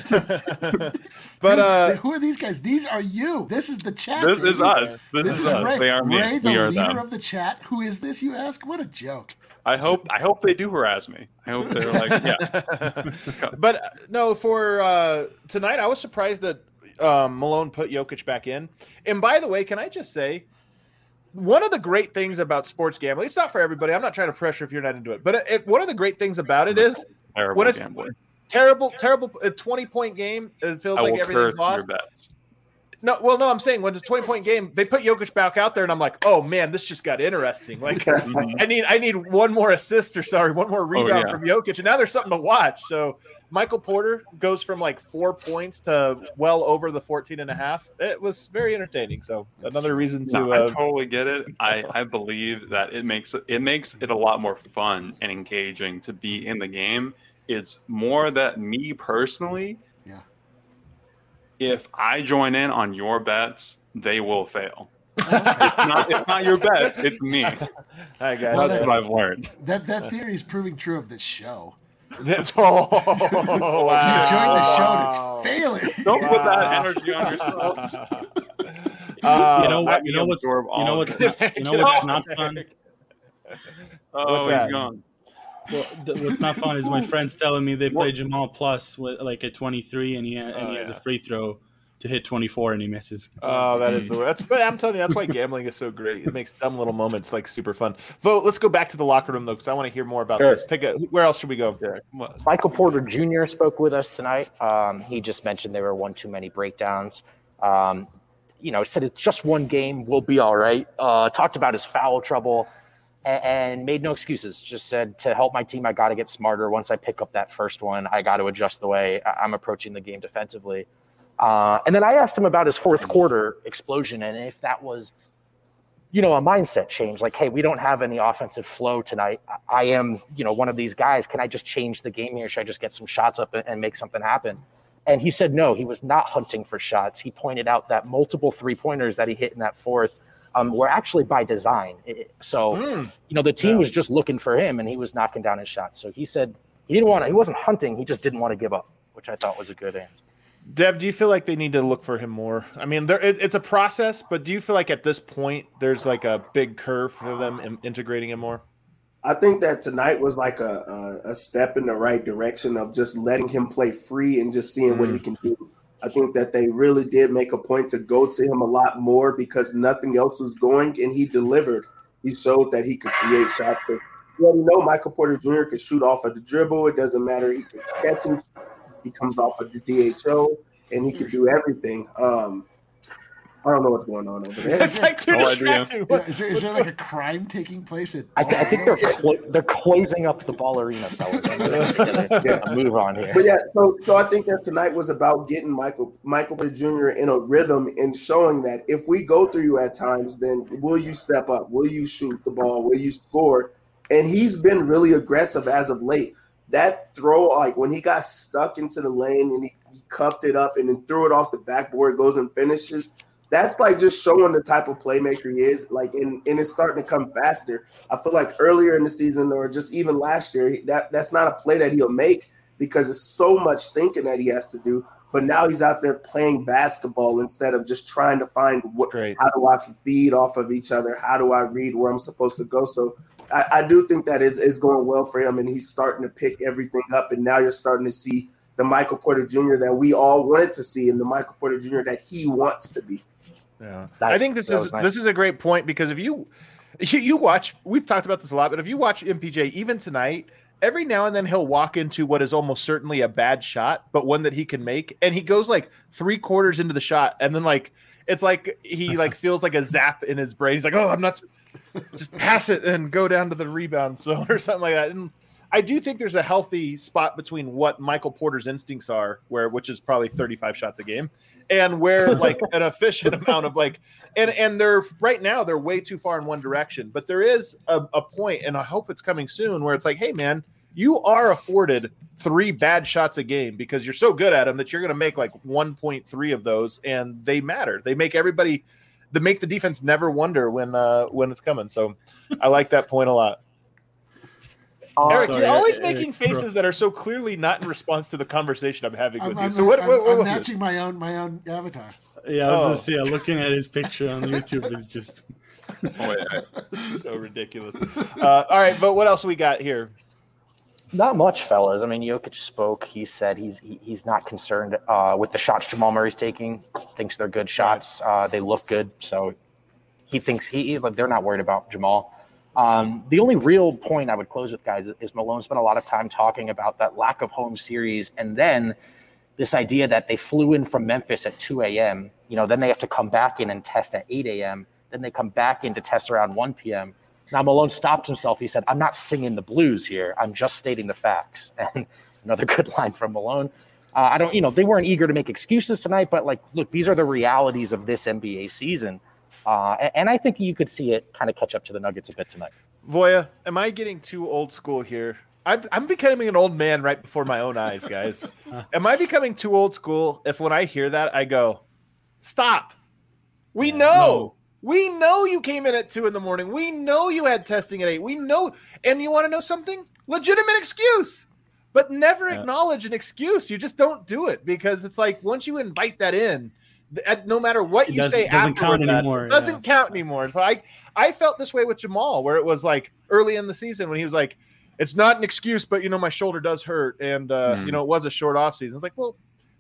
But uh, who are these guys? These are you. This is the chat. This baby. is us. This, This is is us. Ray. They are me. Ray, the we are leader them. of the chat. Who is this, you ask? What a joke. I hope. I hope they do harass me. I hope they're like, yeah. but uh, no, for uh, tonight, I was surprised that um, Malone put Jokic back in. And by the way, can I just say, one of the great things about sports gambling, it's not for everybody. I'm not trying to pressure if you're not into it. But it, it, one of the great things about it is Terrible when it's gambling. terrible, terrible, a twenty-point game, it feels I like will everything's curse your lost. bets. No, well, no, I'm saying when it's a twenty-point game, they put Jokic back out there, and I'm like, oh, man, this just got interesting. Like, I need I need one more assist or, sorry, one more rebound yeah. from Jokic, and now there's something to watch. So Michael Porter goes from like four points to well over the fourteen and a half. It was very entertaining. So another reason to No, I uh, totally get it. I, I believe that it makes it, it makes it a lot more fun and engaging to be in the game. It's more that me personally, Yeah. if I join in on your bets, they will fail. it's, not, it's not your bets, it's me. Hi, guys. Well, That's what I've learned. That that theory is proving true of this show. That's- oh, You wow. joined the show and it's failing. Don't put that Wow. energy on yourselves. Uh, you know let what? You me know what's you absorb all know of what's it. not, you know what's not fun. Oh, What's he's that? gone. Well, th- what's not fun is my friends telling me they play Jamal Plus with like at twenty-three, and he and Oh, he has a yeah. free throw to hit twenty-four, and he misses. Oh, that is the that's, but I'm telling you, that's why gambling is so great. It makes dumb little moments like super fun. Vote. Let's go back to the locker room though, because I want to hear more about Sure. this. Take a. Where else should we go? What? Michael Porter Junior spoke with us tonight. Um, he just mentioned there were one too many breakdowns. Um, you know, said it's just one game, we'll be all right. Uh, talked about his foul trouble and, and made no excuses. Just said to help my team, I got to get smarter. Once I pick up that first one, I got to adjust the way I- I'm approaching the game defensively. Uh, and then I asked him about his fourth quarter explosion and if that was, you know, a mindset change. Like, hey, we don't have any offensive flow tonight. I am, you know, one of these guys. Can I just change the game here? Should I just get some shots up and make something happen? And he said no, he was not hunting for shots. He pointed out that multiple three-pointers that he hit in that fourth um, were actually by design. It- so, Mm. you know, the team Yeah. was just looking for him, and he was knocking down his shots. So he said he didn't want to. He wasn't hunting. He just didn't want to give up, which I thought was a good answer. Dev, do you feel like they need to look for him more? I mean, there it, it's a process, but do you feel like at this point there's like a big curve for them in, integrating him more? I think that tonight was like a, a, a step in the right direction of just letting him play free and just seeing what he can do. I think that they really did make a point to go to him a lot more because nothing else was going, and he delivered. He showed that he could create shots. You already know Michael Porter Junior could shoot off of the dribble. It doesn't matter. He can catch him. He comes off of the D H O, and he can do everything. Um, I don't know what's going on over there. It's like too No idea. distracting. Yeah, is there, is there like a crime taking place at? I, th- I think they're clo- they're closing up the ball arena, fellas. I know they're gonna get a move on here. But yeah, so so I think that tonight was about getting Michael Michael Porter Junior in a rhythm and showing that if we go through you at times, then will you step up? Will you shoot the ball? Will you score? And he's been really aggressive as of late. That throw, like when he got stuck into the lane and he, he cuffed it up and then threw it off the backboard, goes and finishes. That's like just showing the type of playmaker he is. Like, and, and it's starting to come faster. I feel like earlier in the season or just even last year, that that's not a play that he'll make because it's so much thinking that he has to do. But now he's out there playing basketball instead of just trying to find what. Great. How do I feed off of each other? How do I read where I'm supposed to go? So I, I do think that is, is going well for him, and he's starting to pick everything up. And now you're starting to see the Michael Porter Junior that we all wanted to see and the Michael Porter Junior that he wants to be. Yeah, Nice. I think this That is was nice. this is a great point because if you, you you watch, we've talked about this a lot, but if you watch M P J even tonight, every now and then he'll walk into what is almost certainly a bad shot, but one that he can make, and he goes like three quarters into the shot, and then like it's like he like feels like a zap in his brain. He's like, oh, I'm not, just pass it and go down to the rebound zone or something like that. And I do think there's a healthy spot between what Michael Porter's instincts are, where which is probably thirty-five shots a game, and where like an efficient amount of like, and and they're right now they're way too far in one direction. But there is a, a point, and I hope it's coming soon, where it's like, hey man, you are afforded three bad shots a game because you're so good at them that you're going to make like one point three of those, and they matter. They make everybody, they make the defense never wonder when uh, when it's coming. So I like that point a lot. Uh, Eric, sorry, you're always Eric, making Eric, faces bro. that are so clearly not in response to the conversation I'm having with I'm, you. I'm, So what? I'm, what, what I'm was matching my own my own avatar. Yeah, I was Oh. gonna say, yeah, looking at his picture on YouTube is just Oh, wait, I- this? So ridiculous. Uh, all right, but what else we got here? Not much, fellas. I mean, Jokic spoke. He said he's he, he's not concerned uh, with the shots Jamal Murray's taking. Thinks they're good shots. Uh, they look good, so he thinks he like they're not worried about Jamal. Um, the only real point I would close with, guys, is Malone spent a lot of time talking about that lack of home series, and then this idea that they flew in from Memphis at two a.m. You know, then they have to come back in and test at eight a.m. Then they come back in to test around one p.m. Now Malone stopped himself. He said, "I'm not singing the blues here. I'm just stating the facts." And another good line from Malone. Uh, I don't, you know, they weren't eager to make excuses tonight, but like, look, these are the realities of this N B A season. Uh, and, and I think you could see it kind of catch up to the Nuggets a bit tonight. Voya, am I getting too old school here? I'm, I'm becoming an old man right before my own eyes, guys. Am I becoming too old school if when I hear that, I go, stop. We know. No. We know you came in at two in the morning. We know you had testing at eight. We know. And you want to know something? Legitimate excuse. But never Yeah. acknowledge an excuse. You just don't do it because it's like once you invite that in, th- no matter what It you doesn't- say doesn't afterward, count that anymore, doesn't yeah. count anymore. So I, I felt this way with Jamal, where it was like early in the season when he was like, it's not an excuse, but you know, my shoulder does hurt. And, uh, Hmm. you know, it was a short off season. It's like, well,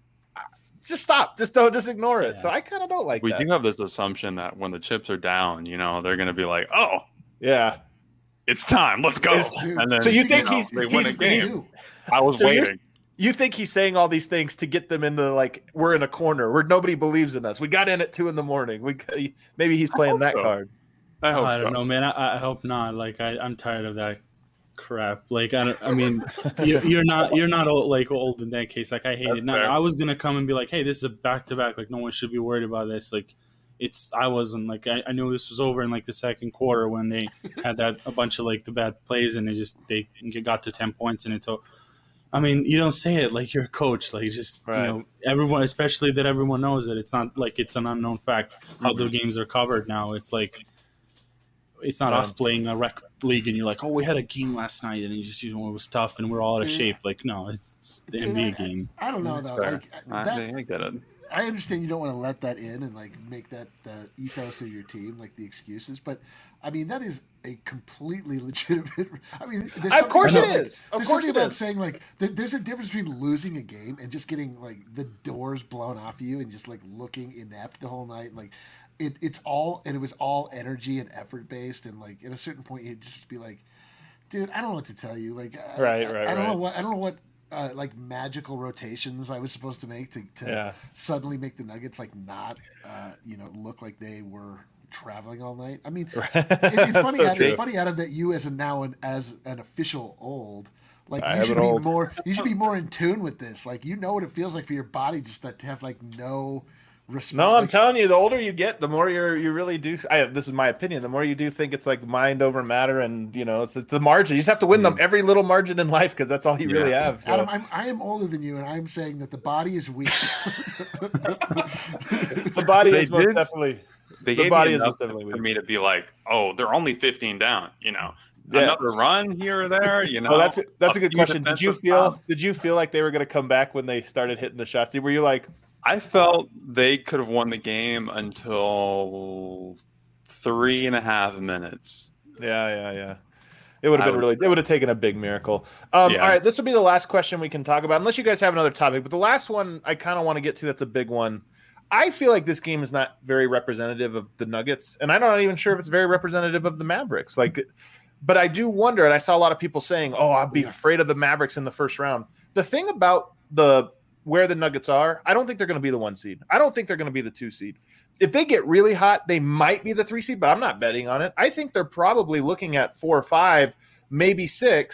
just stop. Just don't, just ignore it. Yeah. So I kind of don't like we that. do have this assumption that when the chips are down, you know, they're going to be like, "Oh, Yeah. it's time, let's go." It's- And then, So you think know, he's- they win a he's- game? he's- Ew. I was So you're- waiting. You think he's saying all these things to get them into like, we're in a corner where nobody believes in us. We got in at two in the morning. We Maybe he's playing hope that so. card. I hope I so. don't know, man. I, I hope not. Like I, I'm tired of that crap. Like I don't. I mean, you, you're not. You're not old, like old in that case. Like I hate That's it. Now, fair. I was gonna come and be like, hey, this is a back to back. Like no one should be worried about this. Like it's. I wasn't. Like I, I knew this was over in like the second quarter when they had that a bunch of like the bad plays and they just they got to ten points in it. So. I mean, you don't say it like you're a coach. Like, just Right. you know, everyone, especially that everyone knows it. It's not like it's an unknown fact how the games are covered now. It's like it's not Yeah. us playing a rec league and you're like, oh, we had a game last night and you just you know it was tough and we're all out of Dude. shape. Like, no, it's, it's the Dude, N B A I- game. I don't know though. Fair. Like I, that, I get it. I understand you don't want to let that in and like make that the ethos of your team, like the excuses. But I mean, that is a completely legitimate. I mean, there's Of something course it about- is. Of There's course something it about is. saying like there, there's a difference between losing a game and just getting like the doors blown off you and just like looking inept the whole night. Like it, it's all and it was all energy and effort based. And like at a certain point, you'd just be like, dude, I don't know what to tell you. Like, I- Right, I, right, I don't know right. what I don't know what. Uh, like magical rotations I was supposed to make to, to Yeah. suddenly make the Nuggets like not, uh, you know, look like they were traveling all night. I mean, Right. it, it's funny. So Adam, true. it's funny, Adam, that you as a now an, as an official old, like I you am should an be old. more. You should be more in tune with this. Like you know what it feels like for your body just to, to have like no respect. No, I'm like, telling you, the older you get, the more you're you really do. I, this is my opinion. The more you do think it's like mind over matter, and you know, it's it's the margin. You just have to win them every little margin in life because that's all you really have. So. Adam, I'm, I am older than you, and I'm saying that the body is weak. the body They is most did- definitely. They The gave body me is enough most definitely for weak. me to be like, "Oh, they're only fifteen down." You know, Yeah. another run here or there. You know, Oh, that's a, that's a good few question. Did you defensive feel fouls. did you feel like they were going to come back when they started hitting the shots? Were you like, I felt they could have won the game until three and a half minutes. yeah, yeah, yeah? It would have I been would- really. It would have taken a big miracle. Um, Yeah. All right, this will be the last question we can talk about, unless you guys have another topic. But the last one I kind of want to get to. That's a big one. I feel like this game is not very representative of the Nuggets, and I'm not even sure if it's very representative of the Mavericks. Like, but I do wonder, and I saw a lot of people saying, "Oh, I'd be afraid of the Mavericks in the first round." The thing about the where the Nuggets are, I don't think they're going to be the one seed. I don't think they're going to be the two seed. If they get really hot, they might be the three seed, but I'm not betting on it. I think they're probably looking at four or five, maybe six.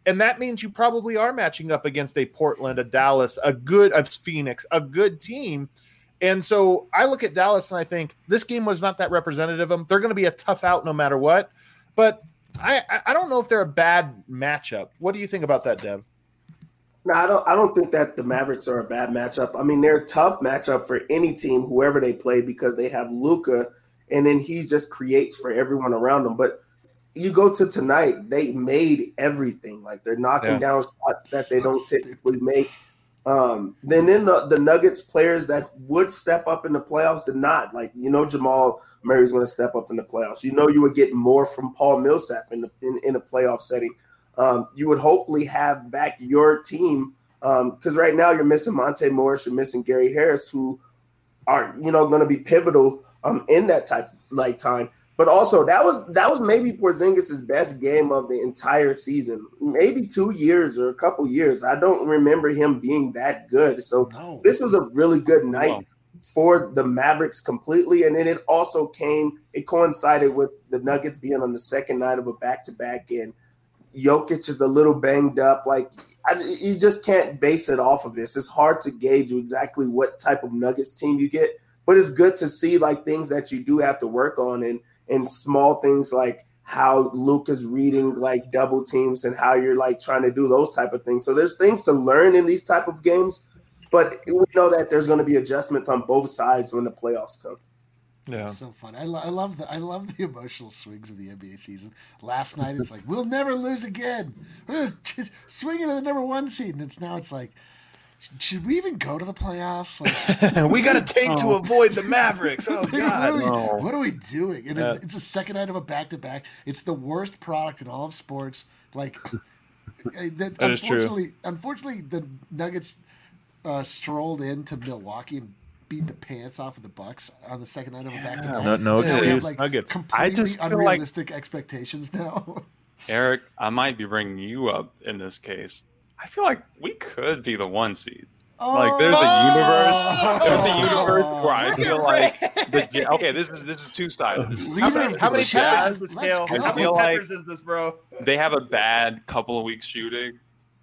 And that means you probably are matching up against a Portland, a Dallas, a good a Phoenix, a good team. And so I look at Dallas and I think this game was not that representative of them. They're going to be a tough out no matter what. But I, I don't know if they're a bad matchup. What do you think about that, Dev? No, I don't. I don't think that the Mavericks are a bad matchup. I mean, they're a tough matchup for any team, whoever they play, because they have Luka, and then he just creates for everyone around them. But you go to tonight, they made everything. Like they're knocking yeah. down shots that they don't typically make. Um, then then the, the Nuggets players that would step up in the playoffs did not. Like, you know, Jamal Murray's going to step up in the playoffs. You know, you would get more from Paul Millsap in the in, in a playoff setting. Um, you would hopefully have back your team because um, right now you're missing Monte Morris, you're missing Gary Harris, who are, you know, going to be pivotal um, in that type like time. But also that was that was maybe Porzingis' best game of the entire season, maybe two years or a couple years. I don't remember him being that good. So no. This was a really good night wow. for the Mavericks completely. And then it also came, it coincided with the Nuggets being on the second night of a back-to-back, and Jokic is a little banged up. Like, I, you just can't base it off of this. It's hard to gauge exactly what type of Nuggets team you get, but it's good to see like things that you do have to work on, and and small things like how Luka's reading like double teams and how you're like trying to do those type of things. So there's things to learn in these type of games, but we know that there's going to be adjustments on both sides when the playoffs come. Yeah, so fun. I, lo- I love the I love the emotional swings of the N B A season. Last night it's like we'll never lose again. We're just swinging to the number one seed, and it's now it's like, should we even go to the playoffs? Like, we got to tank oh. to avoid the Mavericks. Oh God, what are we, no. what are we doing? And yeah. it, it's a second night of a back to back. It's the worst product in all of sports. Like that, that unfortunately, is true. unfortunately, the Nuggets uh, strolled into Milwaukee and beat the pants off of the Bucks on the second night of a back to back. No, no excuse, like Nuggets. Completely I just feel unrealistic like, expectations now. Eric, I might be bringing you up in this case. I feel like we could be the one seed. Oh, like there's a universe, there's a universe where I feel like the okay, this is this is two sided. How many, how many peppers is the scale? How many peppers like is this, bro? They have a bad couple of weeks shooting.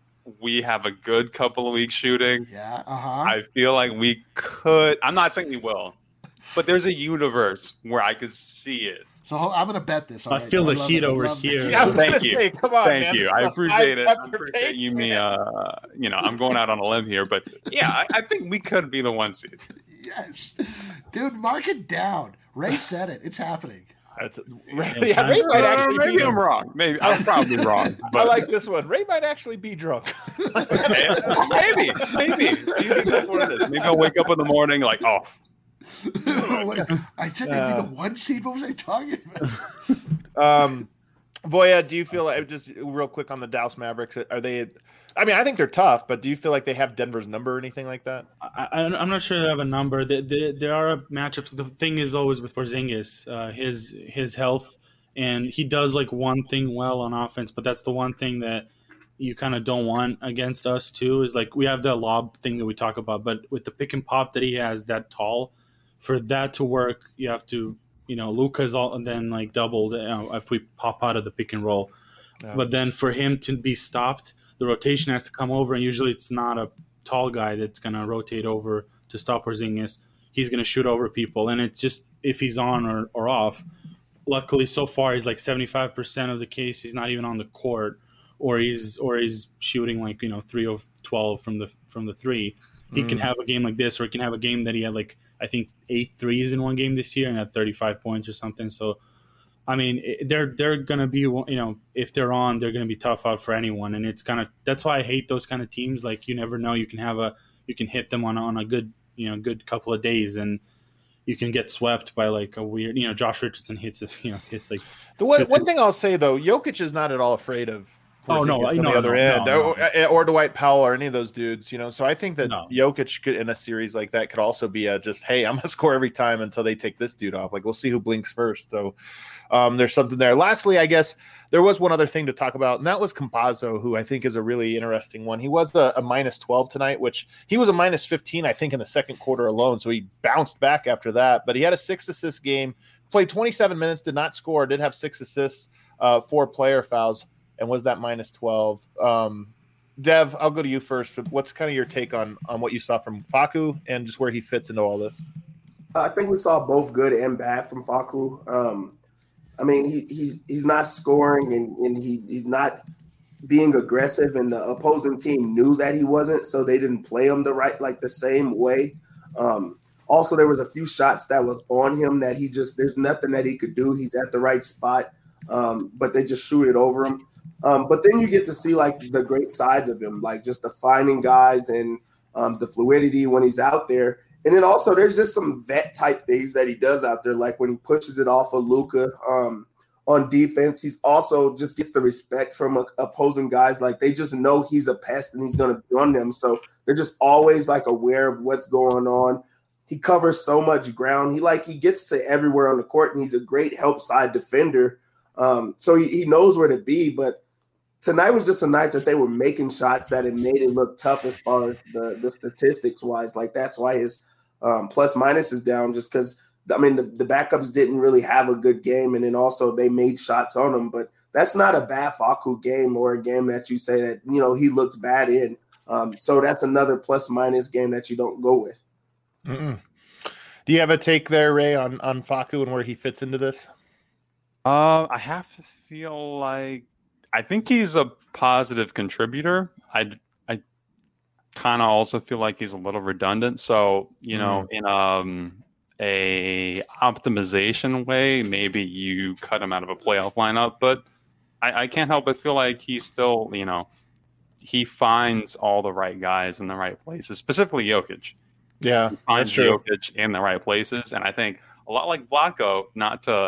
We have a good couple of weeks shooting. Yeah, uh-huh. I feel like we could. I'm not saying we will, but there's a universe where I could see it. So I'm gonna bet this. I right. feel I the heat it. over here. Yeah, I was Thank gonna you. say, come on, Thank man. you. I appreciate it. I appreciate you, me. Uh, you know, I'm going out on a limb here, but yeah, I, I think we could be the one seed. Yes, dude, mark it down. Ray said it. It's happening. That's Ray, yeah, Ray might actually maybe be I'm wrong. Maybe I'm probably wrong. But I like this one. Ray might actually be drunk. maybe, maybe. Maybe that's what it is. Maybe I'll wake up in the morning like, oh. what, I said they'd be the one seed. What was I talking about? um, Voya, do you feel like, just real quick on the Dallas Mavericks, are they? I mean, I think they're tough, but do you feel like they have Denver's number or anything like that? I, I'm not sure they have a number. There, there, there are matchups. The thing is always with Porzingis, uh, his his health, and he does like one thing well on offense, but that's the one thing that you kind of don't want against us too. Is like we have the lob thing that we talk about, but with the pick and pop that he has that tall, for that to work, you have to, you know, Luka's all then like doubled you know, if we pop out of the pick and roll, yeah. But then for him to be stopped, the rotation has to come over, and usually it's not a tall guy that's going to rotate over to stop Porzingis. He's going to shoot over people, and it's just if he's on or, or off. Luckily, so far, he's like seventy-five percent of the case he's not even on the court, or he's or he's shooting like, you know, three of twelve from the from the three. He mm. can have a game like this, or he can have a game that he had like, I think, eight threes in one game this year and had thirty-five points or something. So, I mean, they're they're gonna be, you know, if they're on, they're gonna be tough out for anyone, and it's kind of that's why I hate those kind of teams. Like, you never know, you can have a you can hit them on on a good you know good couple of days, and you can get swept by like a weird, you know, Josh Richardson hits you know hits like the one one thing I'll say though, Jokic is not at all afraid of. Oh no! On no, the other no, end, no, no. Or, or Dwight Powell, or any of those dudes, you know. So I think that no. Jokic could, in a series like that, could also be a just, hey, I'm gonna score every time until they take this dude off. Like, we'll see who blinks first. So um, there's something there. Lastly, I guess there was one other thing to talk about, and that was Campazzo, who I think is a really interesting one. He was a, a minus twelve tonight, which he was a minus fifteen, I think, in the second quarter alone. So he bounced back after that. But he had a six assist game, played twenty-seven minutes, did not score, did have six assists, uh, four player fouls. and was that minus twelve. Um, Dev, I'll go to you first. What's kind of your take on on what you saw from Facu and just where he fits into all this? I think we saw both good and bad from Facu. Um, I mean, he, he's he's not scoring and, and he he's not being aggressive, and the opposing team knew that he wasn't, so they didn't play him the right like the same way. Um, also, there was a few shots that was on him that he just there's nothing that he could do. He's at the right spot, um, but they just shoot it over him. Um, but then you get to see like the great sides of him, like just the finding guys and um, the fluidity when he's out there. And then also there's just some vet type things that he does out there, like when he pushes it off of Luka um, on defense. He's also just gets the respect from uh, opposing guys. Like they just know he's a pest and he's going to be on them. So they're just always like aware of what's going on. He covers so much ground. He like he gets to everywhere on the court, and he's a great help side defender. Um, so he, he knows where to be, but tonight was just a night that they were making shots that it made it look tough as far as the, the statistics wise. Like that's why his um, plus minus is down, just because I mean the, the backups didn't really have a good game, and then also they made shots on him. But that's not a bad Facu game or a game that you say that you know he looked bad in. Um, so that's another plus minus game that you don't go with. Mm-mm. Do you have a take there, Ray, on on Facu and where he fits into this? Uh, I have to feel like I think he's a positive contributor. I, I kind of also feel like he's a little redundant. So, you know, mm. in um, a optimization way, maybe you cut him out of a playoff lineup. But I, I can't help but feel like he's still, you know, he finds all the right guys in the right places, specifically Jokic. Yeah, he finds Jokic in the right places. And I think a lot like Vlatko, not to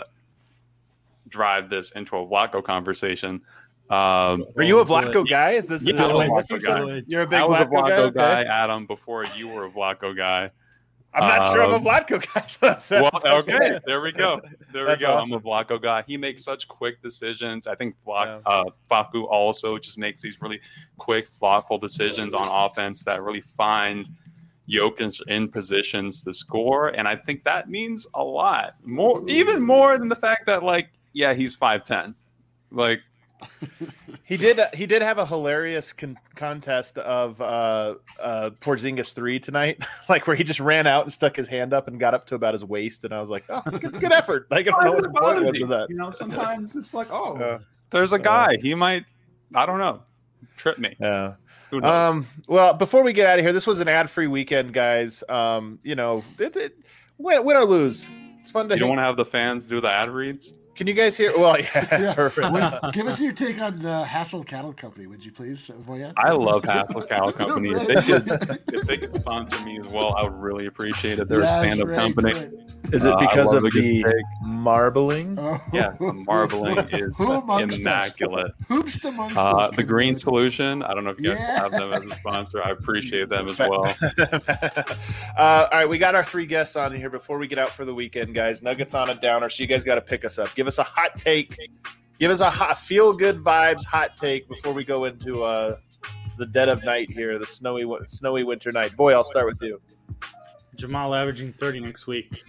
drive this into a Vlatko conversation, Um, Are you a Vlatko guy? Is this? Yeah, is I'm a this Vlatko guy. You're a big I was Vlatko, a Vlatko guy, guy, Adam, before you were a Vlatko guy. I'm not um, sure I'm a Vlatko guy. So that's, well, that's okay. okay, there we go. There that's we go. awesome. I'm a Vlatko guy. He makes such quick decisions. I think Vlak, yeah. uh, Facu also just makes these really quick, thoughtful decisions on offense that really find Jokic in positions to score, and I think that means a lot more, even more than the fact that, like, yeah, he's five ten, like. he did. He did have a hilarious con- contest of uh, uh, Porzingis three tonight, like where he just ran out and stuck his hand up and got up to about his waist, and I was like, "Oh, good, good effort!" Like, I don't know what the point was of that. You know, sometimes it's like, "Oh, uh, there's a guy. Uh, he might, I don't know, trip me." Yeah. Um. Well, before we get out of here, this was an ad-free weekend, guys. Um. You know, it, it, win, win or lose, it's fun to. You don't want to have the fans do the ad reads. Can you guys hear? Well, yeah. yeah. Wait, give us your take on uh, Hassel Cattle Company, would you please, Voya? I love Hassel Cattle Company. If they could, if they could sponsor me as well, I would really appreciate it. They're yes, a stand-up right, company. Right. Is it because uh, of the marbling? Oh. Yes, the marbling is immaculate. Who's amongst uh, us? The Green Solution. I don't know if you guys yeah. have them as a sponsor. I appreciate them as well. uh, all right, we got our three guests on here before we get out for the weekend, guys. Nuggets on a downer, so you guys got to pick us up. Give us a hot take. Give us a hot, feel good vibes hot take before we go into uh, the dead of night here, the snowy snowy winter night. Boy, I'll start with you. Jamal averaging thirty next week.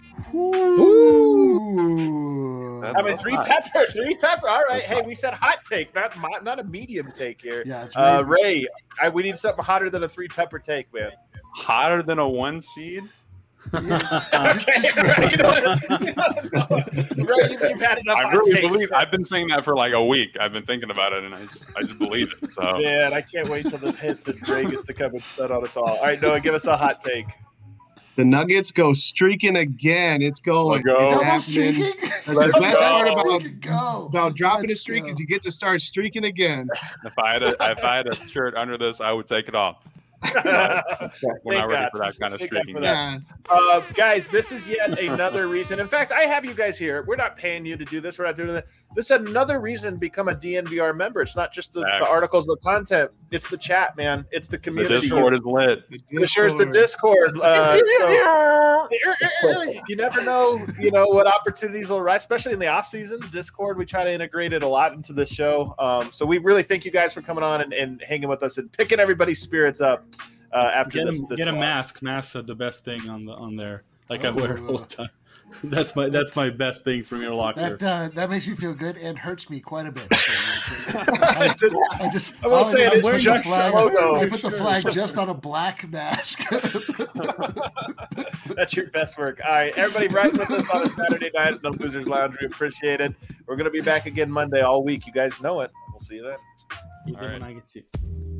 Ooh. I mean, three hot. pepper, three pepper. All right. Hey, we said hot take, not not a medium take here. Yeah, it's uh, Ray, I, we need something hotter than a three pepper take, man. Hotter than a one seed? Yeah. Okay, right, you know, you know, right, you've, you've had enough I really taste, believe. man. I've been saying that for like a week. I've been thinking about it, and I just, I just believe it. So man, I can't wait till this hits and Ray gets to come and stud on us all. All right, Noah, give us a hot take. The Nuggets go streaking again. It's going. Go. It's Double streaking? That's the best go. part about, go. about dropping Let's a streak go. is you get to start streaking again. if I had a, if I had a shirt under this, I would take it off. But we're not ready God. for that kind of Thank streaking. Yeah. Uh, guys, this is yet another reason. In fact, I have you guys here. We're not paying you to do this. We're not doing that. This is another reason to become a D N V R member. It's not just the, the articles, the content. It's the chat, man. It's the community. The Discord is lit. For sure, it's the Discord. Uh, so, you never know, you know, what opportunities will arise, especially in the off season. Discord, we try to integrate it a lot into the show. Um, so we really thank you guys for coming on and, and hanging with us and picking everybody's spirits up. Uh, after get this, a, this get a loss. mask. Masks are the best thing on the on there. Like oh, I wear all the time. That's my that's my best thing from your locker. That uh, that makes me feel good and hurts me quite a bit. I, I just I will all say did it was is put the just flag- logo. I put the flag just on a black mask. That's your best work. All right, everybody, right with us on a Saturday night in the Losers Lounge. We appreciate it. We're going to be back again Monday all week. You guys know it. We'll see you then. Even All right. when I get to.